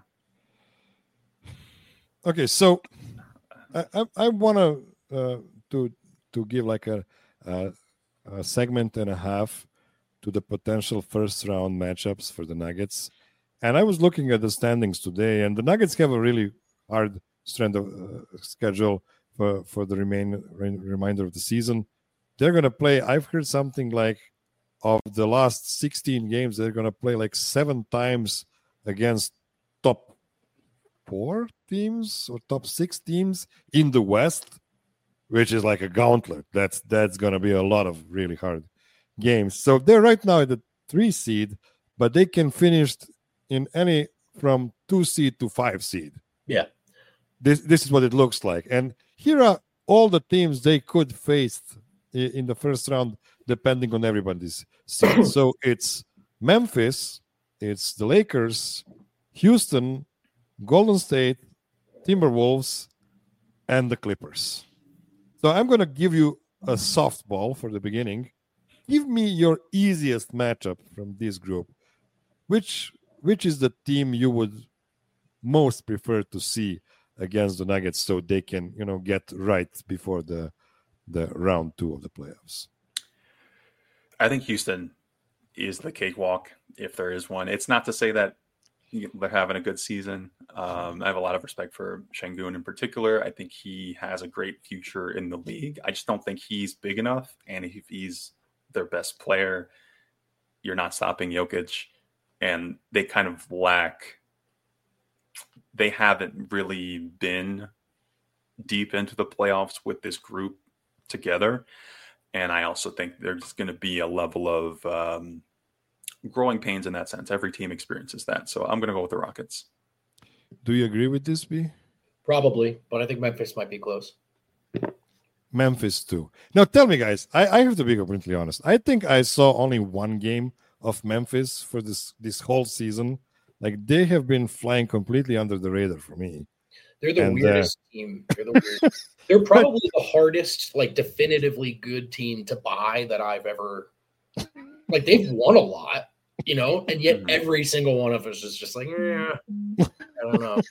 Okay, so I I, I want to uh, to to give like a, a a segment and a half to the potential first round matchups for the Nuggets, and I was looking at the standings today, and the Nuggets have a really hard strength of uh, schedule for for the remain re- remainder of the season. They're gonna play. I've heard something like of the last sixteen games, they're gonna play like seven times against top four teams or top six teams in the West, which is like a gauntlet. That's that's going to be a lot of really hard games. So they're right now at the three seed, but they can finish in any from two seed to five seed. Yeah. This this is what it looks like. And here are all the teams they could face in the first round, depending on everybody's seed. So it's Memphis, it's the Lakers, Houston, Golden State, Timberwolves, and the Clippers. So I'm going to give you a softball for the beginning. give me your easiest matchup from this group. Which which is the team you would most prefer to see against the Nuggets so they can, you know, get right before the the round two of the playoffs? I think Houston is the cakewalk, if there is one. It's not to say that they're having a good season. Um, I have a lot of respect for Şengün in particular. I think he has a great future in the league. I just don't think he's big enough. And if he's their best player, you're not stopping Jokic. And they kind of lack, they haven't really been deep into the playoffs with this group together. And I also think there's going to be a level of um, growing pains in that sense. Every team experiences that. So I'm going to go with the Rockets. Do you agree with this, B? Probably, but I think Memphis might be close. Memphis too. Now tell me, guys, I, I have to be completely honest. I think I saw only one game of Memphis for this this whole season. Like, they have been flying completely under the radar for me. They're the And, weirdest uh, team. They're the weirdest. They're probably the hardest, like definitively good team to buy that I've ever. Like, they've won a lot, you know, and yet every single one of us is just like, eh, I don't know.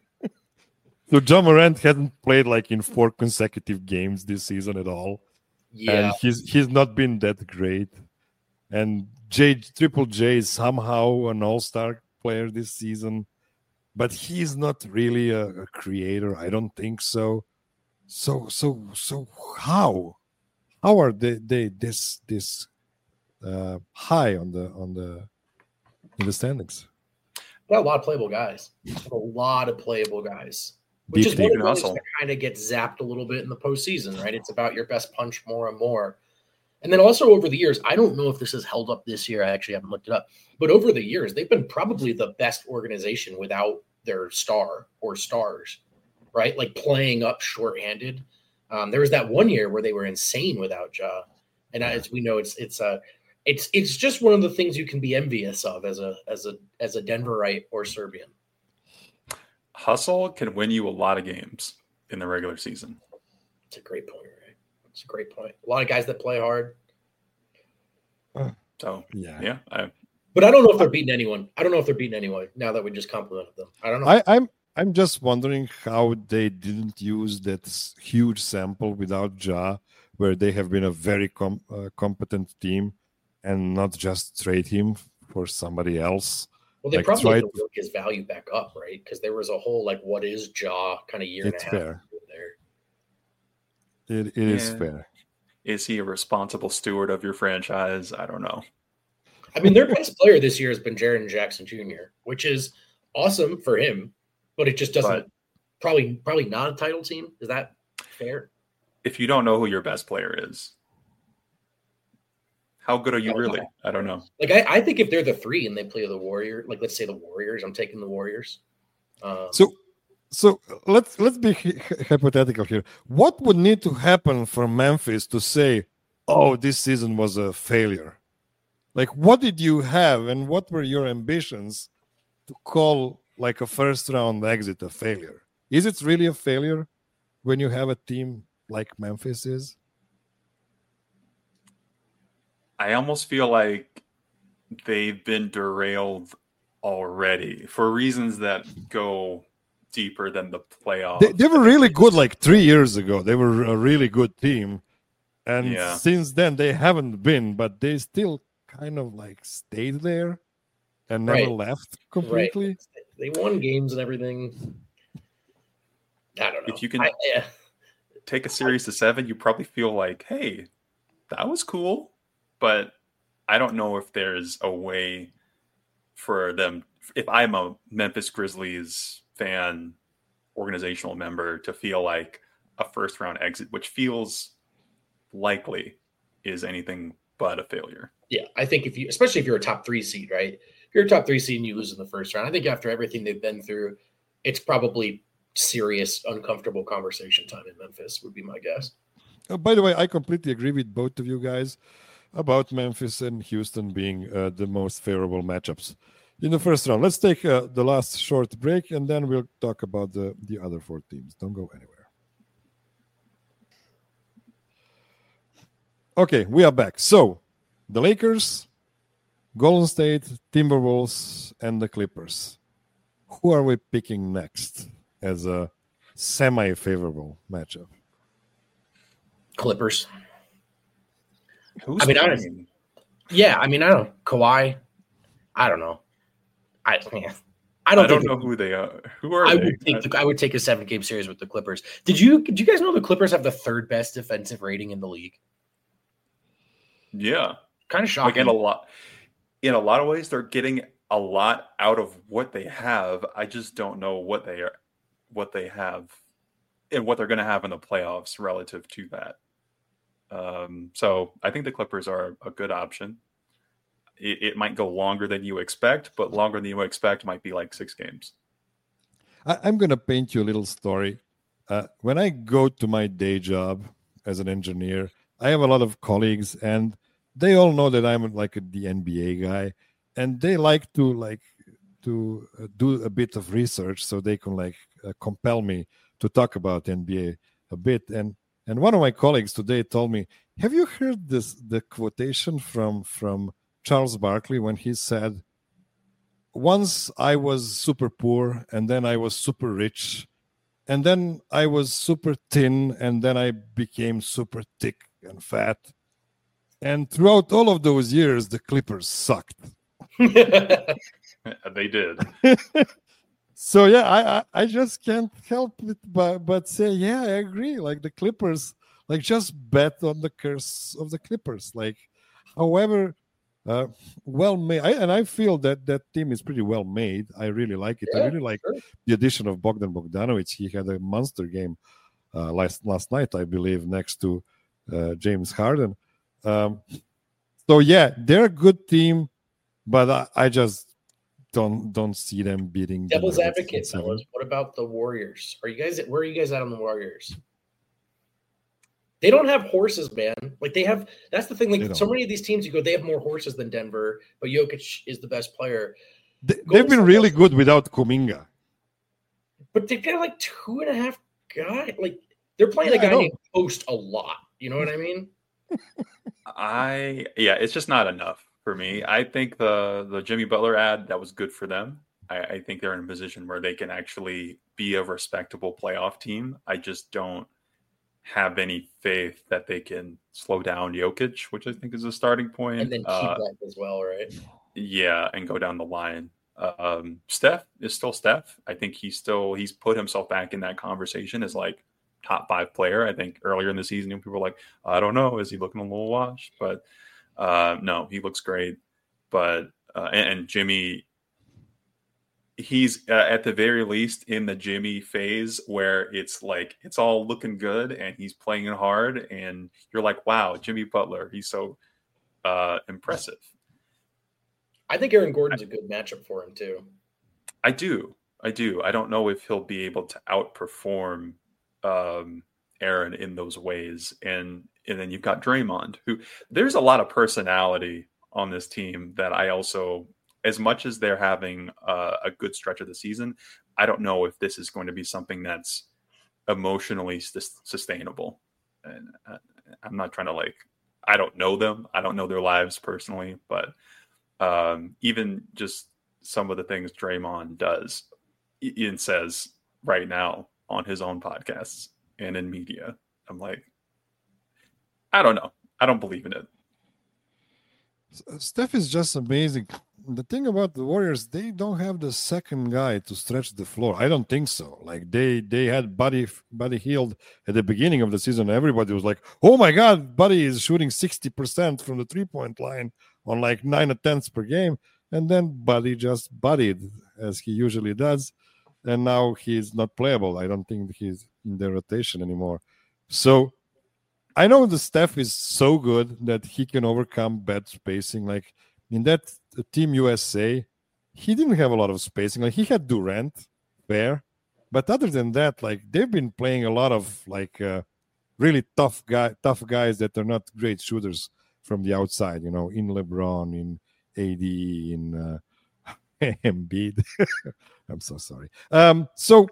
So Ja Morant hasn't played like in four consecutive games this season at all. Yeah, And he's he's not been that great. And J Triple J is somehow an all-star player this season, but he's not really a, a creator. I don't think so. So so so how how are they they this this uh, high on the on the in the standings? got a lot of playable guys. A lot of playable guys. Which Deep, is one deep of those hustle. that kind of gets zapped a little bit in the postseason, right? It's about your best punch more and more. And then also over the years, I don't know if this has held up this year. I actually haven't looked it up. But over the years, they've been probably the best organization without their star or stars, right? Like playing up shorthanded. Um, there was that one year where they were insane without Ja. And as we know, it's it's a it's it's just one of the things you can be envious of as a as a as a Denverite or Serbian. Hustle can win you a lot of games in the regular season. It's a great point, right? It's a great point. A lot of guys that play hard. So Yeah. yeah, I, But I don't know if they're beating anyone. I don't know if they're beating anyone now that we just complimented them. I don't know. I, I'm I'm just wondering how they didn't use that s- huge sample without Ja, where they have been a very com- uh, competent team, and not just trade him for somebody else. well, they like, probably try have to work his value back up, right? Because there was a whole like, what is Jaw kind of year It's and a half fair. there. It, it is Yeah. fair. is he a responsible steward of your franchise? I don't know. I mean, their best player this year has been Jaren Jackson Junior, which is awesome for him, but it just doesn't. But- probably, probably not a title team. Is that fair? If you don't know who your best player is, how good are you I don't really? know. I don't know. Like, I, I think if they're the three and they play the Warrior, like let's say the Warriors, I'm taking the Warriors. Um, So, so let's let's be hy- hypothetical here. What would need to happen for Memphis to say, "Oh, this season was a failure"? Like, what did you have, and what were your ambitions to call like a first round exit a failure? Is it really a failure when you have a team like Memphis is? I almost feel like they've been derailed already for reasons that go deeper than the playoffs. They, they were really good like three years ago. They were a really good team. And Yeah. since then, they haven't been, but they still kind of like stayed there and never Right. left completely. Right. They won games and everything. I don't know. If you can- I, yeah. Take a series to seven, you probably feel like, hey, that was cool. But I don't know if there's a way for them. If I'm a Memphis Grizzlies fan, organizational member, to feel like a first round exit, which feels likely, is anything but a failure. Yeah, I think if you, especially if you're a top three seed, right? If you're a top three seed and you lose in the first round, I think after everything they've been through, it's probably serious, uncomfortable conversation time in Memphis, would be my guess. Uh, by the way, I completely agree with both of you guys about Memphis and Houston being uh, the most favorable matchups in the first round. Let's take uh, the last short break, and then we'll talk about the, the other four teams. Don't go anywhere. Okay, we are back. So the Lakers, Golden State, Timberwolves, and the Clippers. Who are we picking next as a semi-favorable matchup? Clippers. Who's I mean, I playing? don't, yeah, I mean, I don't Kawhi. I don't know. I man, I don't, I don't think know who they are. Who are I they? would take the, I would take a seven game series with the Clippers. Did you did you guys know the Clippers have the third best defensive rating in the league? Yeah, Kind of like shocking. in a lot, in a lot of ways, they're getting a lot out of what they have. I just don't know what they are, what they have, and what they're going to have in the playoffs relative to that. Um, so I think the Clippers are a good option. It, it might go longer than you expect, but longer than you expect might be like six games. I, I'm going to paint you a little story. Uh, when I go to my day job as an engineer, I have a lot of colleagues, and they all know that I'm like a, the N B A guy, and they like to like to uh, do a bit of research so they can like uh, compel me to talk about N B A a bit. And and one of my colleagues today told me, "Have you heard this the quotation from from Charles Barkley when he said, once I was super poor, and then I was super rich, and then I was super thin, and then I became super thick and fat. And throughout all of those years, the Clippers sucked." They did. So yeah, I, I I just can't help it but but say, yeah, I agree. Like the Clippers, like just bet on the curse of the Clippers. Like, however, uh, well made, I, and I feel that that team is pretty well made. I really like it. Yeah, I really like sure. the addition of Bogdan Bogdanovic. He had a monster game uh, last last night, I believe, next to uh, James Harden. Um, so yeah, they're a good team, but I, I just don't don't see them beating. the Devil's Nuggets in advocate, seven. fellas. What about the Warriors? Are you guys where are you guys at on the Warriors? They don't have horses, man. Like they have that's the thing. They Like don't. so many of these teams, you go, they have more horses than Denver, but Jokic is the best player. They, Golden they've been State really has- good without Kuminga. But they've got like two and a half guys. Like they're playing Yeah, a I guy know. named Post a lot. You know what I mean? I yeah, it's just not enough for me. I think the the Jimmy Butler ad, that was good for them. I, I think they're in a position where they can actually be a respectable playoff team. I just don't have any faith that they can slow down Jokic, which I think is a starting point. And then keep Uh, that as well, right? yeah, and go down the line. Um, Steph is still Steph. I think he's still he's put himself back in that conversation as like top five player. I think earlier in the season, people were like, I don't know, is he looking a little washed? But uh, no, he looks great. But uh, and, and Jimmy, he's uh, at the very least in the Jimmy phase where it's like it's all looking good and he's playing hard, and you're like, wow, Jimmy Butler, he's so uh, impressive. I think Aaron Gordon's a good matchup for him too. I do. I do. I don't know if he'll be able to outperform um, Aaron in those ways. And and then you've got Draymond, who there's a lot of personality on this team that I also, as much as they're having uh, a good stretch of the season, I don't know if this is going to be something that's emotionally sus- sustainable. And I, I'm not trying to like, I don't know them. I don't know their lives personally, but um, even just some of the things Draymond does and says right now on his own podcasts and in media, I'm like, I don't know. I don't believe in it. Steph is just amazing. The thing about the Warriors, they don't have the second guy to stretch the floor. I don't think so. Like they they had Buddy Buddy Hield at the beginning of the season. Everybody was like, "Oh my God, Buddy is shooting sixty percent from the three point line on like nine attempts per game." And then Buddy just buddied as he usually does, and now he's not playable. I don't think he's in the rotation anymore. So I know the Steph is so good that he can overcome bad spacing. Like in that Team U S A, he didn't have a lot of spacing. Like he had Durant, fair, but other than that, like they've been playing a lot of like uh, really tough guy, tough guys that are not great shooters from the outside. You know, in LeBron, in A D, in uh, Embiid. I'm so sorry. Um, so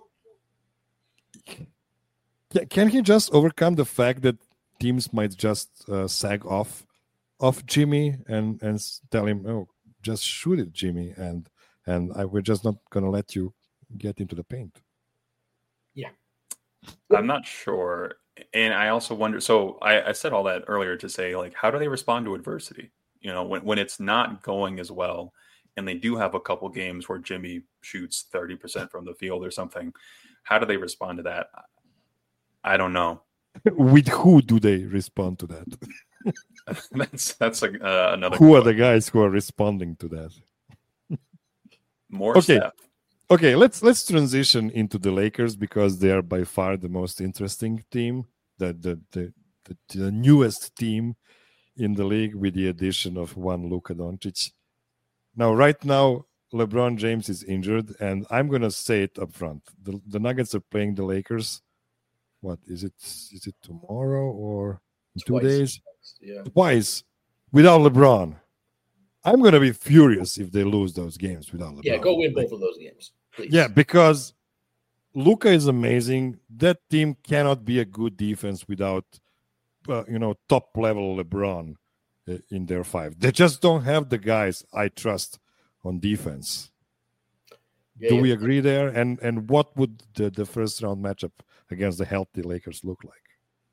can, can he just overcome the fact that teams might just uh, sag off of Jimmy and and tell him, oh, just shoot it, Jimmy, and and I, we're just not going to let you get into the paint. Yeah. I'm not sure. And I also wonder, so I, I said all that earlier to say, like, how do they respond to adversity? You know, when, when it's not going as well, and they do have a couple games where Jimmy shoots thirty percent from the field or something, how do they respond to that? I don't know. With who do they respond to that? that's that's like uh, another. Who question. Are the guys who are responding to that? More okay. Steph. Okay, let's let's transition into the Lakers because they are by far the most interesting team, the the the, the, the newest team in the league with the addition of one Luka Doncic. Now, right now, LeBron James is injured, and I'm gonna say it up front: the the Nuggets are playing the Lakers. What is it? Is it tomorrow or in two Twice. days? Yeah. Twice without LeBron. I'm going to be furious if they lose those games without LeBron. Yeah, go win both of those games, please. Yeah, because Luka is amazing. That team cannot be a good defense without, uh, you know, top-level LeBron uh, in their five. They just don't have the guys I trust on defense. Yeah, Do yeah. we agree there? And and what would the, the first-round matchup against the healthy Lakers look like?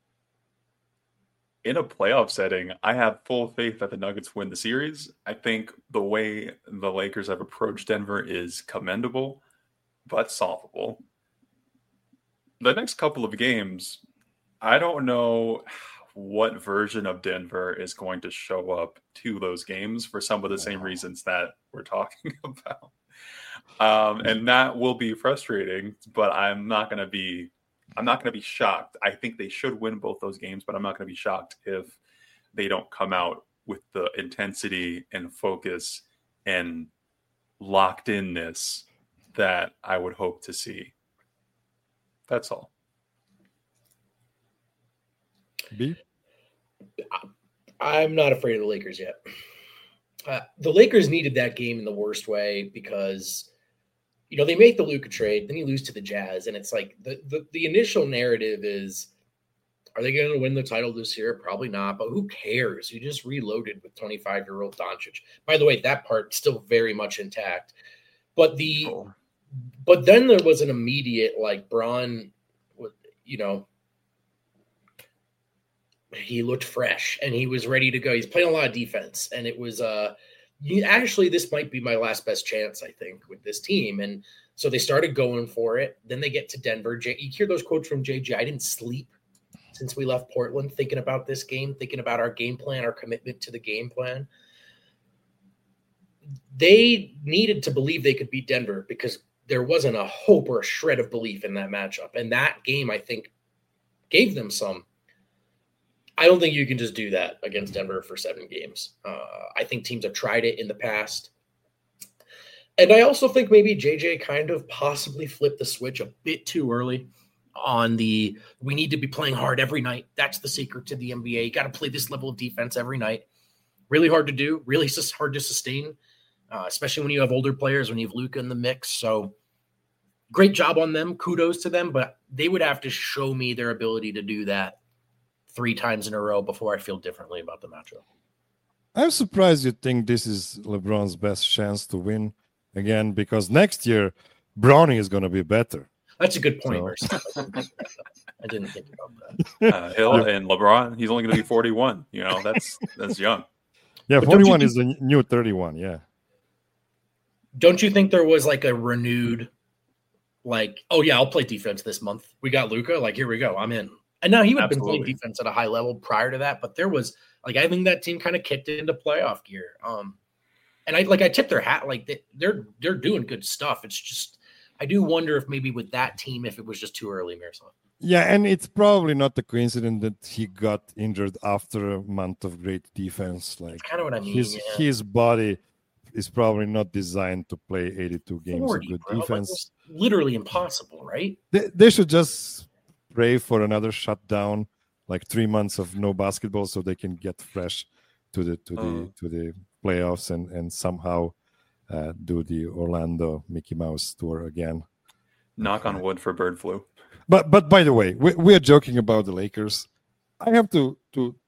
In a playoff setting, I have full faith that the Nuggets win the series. I think the way the Lakers have approached Denver is commendable, but solvable. The next couple of games, I don't know what version of Denver is going to show up to those games for some of the same reasons that we're talking about. Um, and that will be frustrating, but I'm not going to be I'm not going to be shocked. I think they should win both those games, but I'm not going to be shocked if they don't come out with the intensity and focus and locked inness that I would hope to see. That's all. B? I'm not afraid of the Lakers yet. Uh, the Lakers needed that game in the worst way because you know, they make the Luka trade, then you lose to the Jazz, and it's like the, the, the initial narrative is, are they going to win the title this year? Probably not, but who cares? You just reloaded with twenty-five-year-old Doncic. By the way, that part still very much intact. But the oh. but then there was an immediate, like, Bron, you know, he looked fresh, and he was ready to go. He's playing a lot of defense, and it was uh, – You, actually, this might be my last best chance, I think, with this team. And so they started going for it. Then they get to Denver. J- you hear those quotes from J J. I didn't sleep since we left Portland thinking about this game, thinking about our game plan, our commitment to the game plan. They needed to believe they could beat Denver because there wasn't a hope or a shred of belief in that matchup. And that game, I think, gave them some. I don't think you can just do that against Denver for seven games. Uh, I think teams have tried it in the past. And I also think maybe J J kind of possibly flipped the switch a bit too early on the, we need to be playing hard every night. That's the secret to the N B A. You got to play this level of defense every night. Really hard to do, really hard to sustain, uh, especially when you have older players, when you have Luka in the mix. So great job on them. Kudos to them, but they would have to show me their ability to do that three times in a row before I feel differently about the matchup. I'm surprised you think this is LeBron's best chance to win again, because next year, Bronny is going to be better. That's a good point, so. I didn't think about that. Uh, Hill and LeBron, he's only going to be forty-one. You know, that's that's young. Yeah, but forty-one is the new thirty-one, yeah. Don't you think there was like a renewed, like, oh, yeah, I'll play defense this month. We got Luka. Like, here we go. I'm in. And now he would have been playing defense at a high level prior to that, but there was like I think that team kind of kicked into playoff gear. Um, and I like I tip their hat like they, they're they're doing good stuff. It's just I do wonder if maybe with that team if it was just too early, Miroslav. Yeah, and it's probably not a coincidence that he got injured after a month of great defense. Like That's kind of what I mean. His yeah. his body is probably not designed to play eighty-two games forty, of good bro. defense. Like, literally impossible, right? They, they should just pray for another shutdown, like three months of no basketball, so they can get fresh to the to oh. the to the playoffs and and somehow uh, do the Orlando Mickey Mouse tour again. Knock on wood for bird flu. But but by the way, we we are joking about the Lakers. I have to to to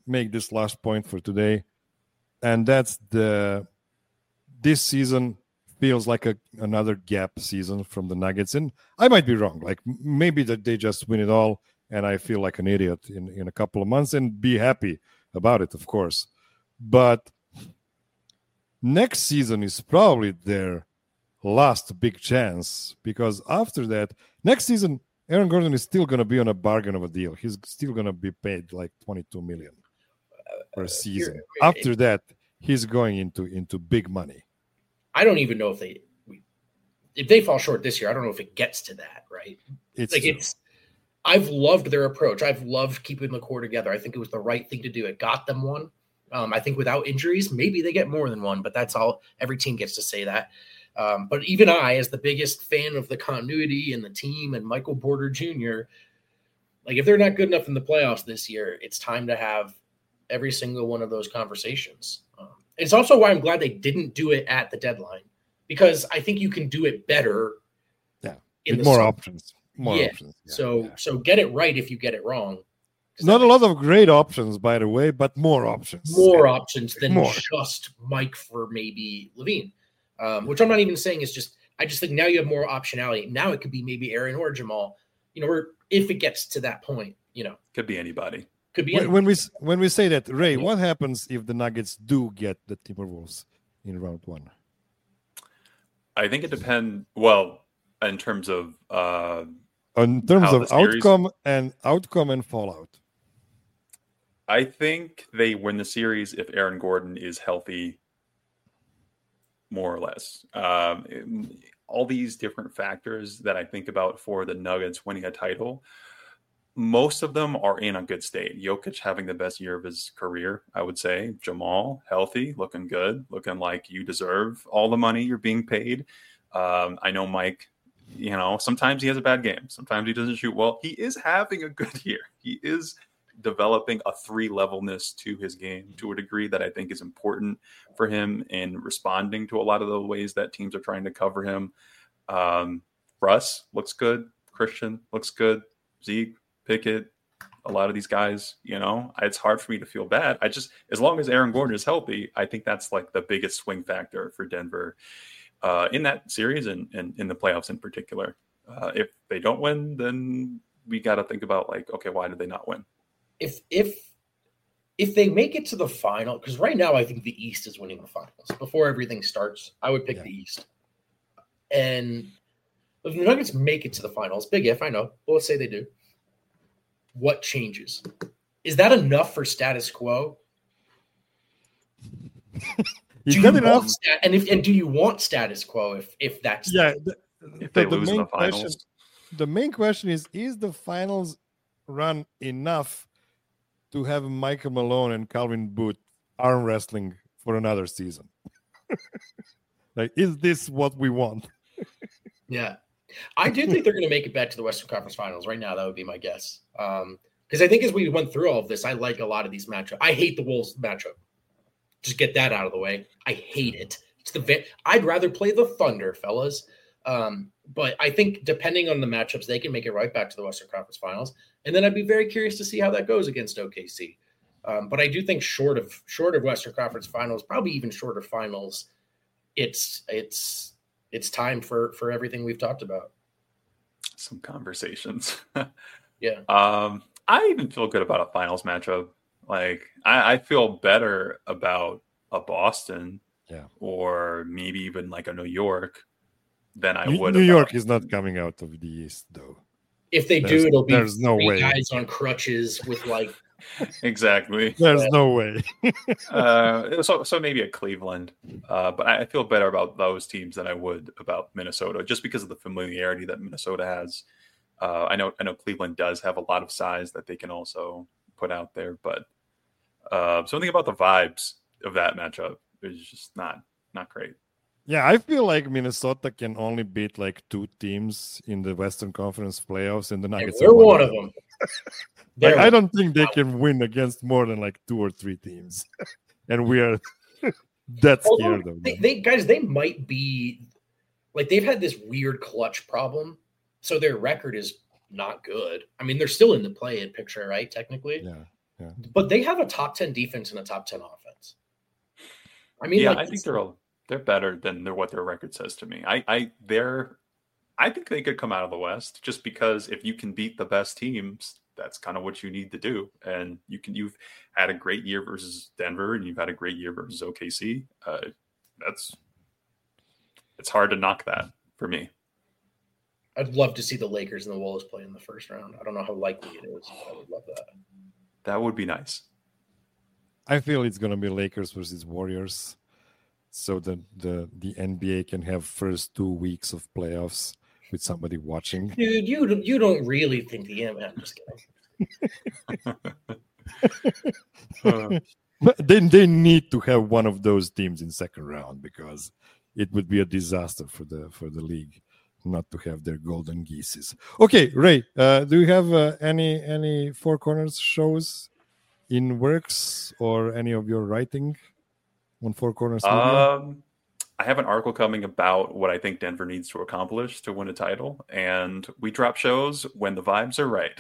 make this last point for today, and that's the this season feels like a another gap season from the Nuggets, and I might be wrong. Like maybe that they just win it all, and I feel like an idiot in, in a couple of months and be happy about it, of course. But next season is probably their last big chance, because after that, next season, Aaron Gordon is still going to be on a bargain of a deal. He's still going to be paid like twenty-two million per season. Uh, after that, he's going into into big money. I don't even know if they if they fall short this year. I don't know if it gets to that, right? It's like it's. I've loved their approach. I've loved keeping the core together. I think it was the right thing to do. It got them one. Um, I think without injuries, maybe they get more than one, but that's all. Every team gets to say that. Um, but even I, as the biggest fan of the continuity and the team and Michael Porter Junior, like if they're not good enough in the playoffs this year, it's time to have every single one of those conversations. Um, it's also why I'm glad they didn't do it at the deadline, because I think you can do it better. Yeah, in the more summer. options. More yeah. options. Yeah, so, yeah. so get it right if you get it wrong. Not a lot of great options, by the way, but more options. More yeah. options than more. just Mike for maybe Levine, um, which I'm not even saying is just. I just think now you have more optionality. Now it could be maybe Aaron or Jamal. You know, or if it gets to that point, you know, could be anybody. Could be when, anybody. when we when we say that, Ray. What happens if the Nuggets do get the Timberwolves in round one? I think it depends. Well, in terms of. Uh, In terms of outcome and outcome and fallout, I think they win the series if Aaron Gordon is healthy, more or less. Um, all these different factors that I think about for the Nuggets winning a title, most of them are in a good state. Jokic having the best year of his career, I would say. Jamal, healthy, looking good, looking like you deserve all the money you're being paid. Um, I know Mike. You know, sometimes he has a bad game. Sometimes he doesn't shoot well. He is having a good year. He is developing a three-levelness to his game to a degree that I think is important for him in responding to a lot of the ways that teams are trying to cover him. Um, Russ looks good. Christian looks good. Zeke, Pickett, a lot of these guys, you know, it's hard for me to feel bad. I just, as long as Aaron Gordon is healthy, I think that's like the biggest swing factor for Denver. Uh, in that series and, and in the playoffs in particular. Uh, if they don't win, then we got to think about like, okay, why did they not win? If if if they make it to the final, because right now I think the East is winning the finals. Before everything starts, I would pick yeah. the East. And if the Nuggets make it to the finals, big if, I know, but let's say they do. What changes? Is that enough for status quo? You do got you enough, stat- and if and do you want status quo if if that's yeah? The, if they the, lose the in main the finals, question, the main question is: is the finals run enough to have Michael Malone and Calvin Booth arm wrestling for another season? Like, is this what we want? Yeah, I do think they're going to make it back to the Western Conference Finals. Right now, that would be my guess. Um, because I think as we went through all of this, I like a lot of these matchups. I hate the Wolves matchup. Just get that out of the way. I hate it. It's the vi- I'd rather play the Thunder, fellas. Um, but I think depending on the matchups, they can make it right back to the Western Conference Finals. And then I'd be very curious to see how that goes against O K C. Um, but I do think short of short of Western Conference Finals, probably even shorter finals, it's it's it's time for for everything we've talked about. Some conversations. Yeah. Um, I even feel good about a finals matchup. Like I, I feel better about a Boston, yeah, or maybe even like a New York than I New, would. New about... York is not coming out of the East, though. If they there's, do, it'll be there's no way. guys on crutches with like exactly. There's no way. uh, so so maybe a Cleveland, uh, but I feel better about those teams than I would about Minnesota, just because of the familiarity that Minnesota has. Uh, I know I know Cleveland does have a lot of size that they can also put out there, but uh, something about the vibes of that matchup is just not not great. Yeah, I feel like Minnesota can only beat like two teams in the Western Conference playoffs, and the Nuggets and we're one of them. Like, I don't think they can win against more than like two or three teams, and we are that scared of them. They, they guys, they might be like they've had this weird clutch problem, so their record is not good. I mean, they're still in the play-in picture, right? Technically, yeah. Yeah. But they have a top ten defense and a top ten offense. I mean, yeah, like, I think they're all, they're better than their, what their record says to me. I, I, they're, I think they could come out of the West just because if you can beat the best teams, that's kind of what you need to do. And you can, you've had a great year versus Denver, and you've had a great year versus O K C. Uh, that's, it's hard to knock that for me. I'd love to see the Lakers and the Wolves play in the first round. I don't know how likely it is, but I would love that. That would be nice. I feel it's going to be Lakers versus Warriors, so that the the N B A can have first two weeks of playoffs with somebody watching. Dude, you you don't really think the M? I'm just kidding. uh, but then they need to have one of those teams in second round because it would be a disaster for the for the league not to have their golden geeses. Okay, Ray, uh, do you have uh, any any Four Corners shows in works or any of your writing on Four Corners Media? Um, I have an article coming about what I think Denver needs to accomplish to win a title, and we drop shows when the vibes are right.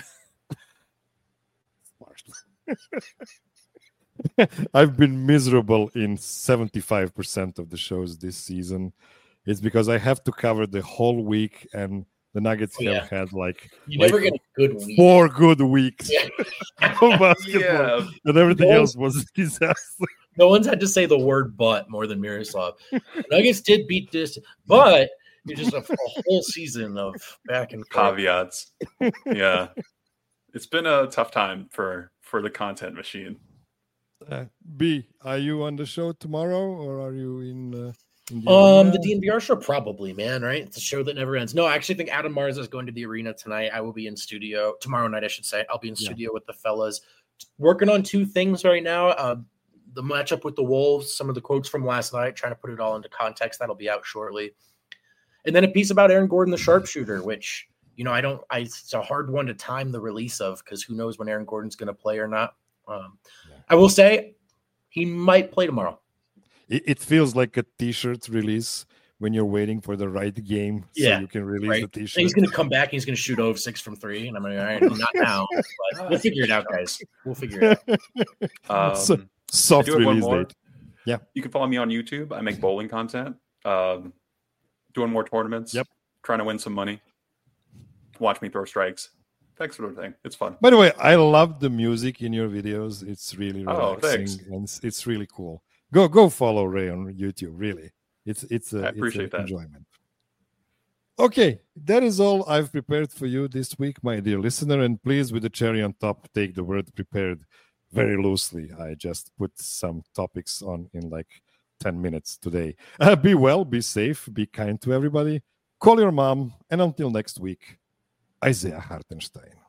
I've been miserable in seventy-five percent of the shows this season. It's because I have to cover the whole week, and the Nuggets Oh, yeah. have had like, You like never get a good week. four good weeks Yeah. of basketball, Yeah. and everything Those- else was a disaster. No one's had to say the word "but" more than Miroslav. Nuggets did beat this, but it's just a, a whole season of back and forth. Caveats. Yeah. It's been a tough time for, for the content machine. Uh, B, are you on the show tomorrow, or are you in? Uh, in the Um, arena? the D N V R show probably, man, right? It's a show that never ends. No, I actually think Adam Marza is going to the arena tonight. I will be in studio tomorrow night, I should say. I'll be in Yeah. studio with the fellas, working on two things right now. Uh, the matchup with the Wolves, some of the quotes from last night, trying to put it all into context. That'll be out shortly. And then a piece about Aaron Gordon, the sharpshooter, which, you know, I don't, I, it's a hard one to time the release of because who knows when Aaron Gordon's going to play or not. Um, Yeah. I will say he might play tomorrow. It, it feels like a T-shirt release when you're waiting for the right game, so Yeah, you can release right. the And T-shirt. he's going to come back and he's going to shoot over six from three. And I'm like, all right, not now. But we'll figure it out, guys. We'll figure it out. Um, So- Soft I do have one release more. date. Yeah. You can follow me on YouTube. I make bowling content. Um, doing more tournaments. Yep. Trying to win some money. Watch me throw strikes. That sort of thing. It's fun. By the way, I love the music in your videos. It's really Oh, relaxing thanks. and it's, it's really cool. Go go follow Ray on YouTube. Really, it's it's a, I appreciate it's a that. enjoyment. Okay, that is all I've prepared for you this week, my dear listener. And please, with the cherry on top, take the word "prepared" very loosely. I just put some topics on in like ten minutes today. Uh, be well, be safe, be kind to everybody. Call your mom, and until next week, Isaiah Hartenstein.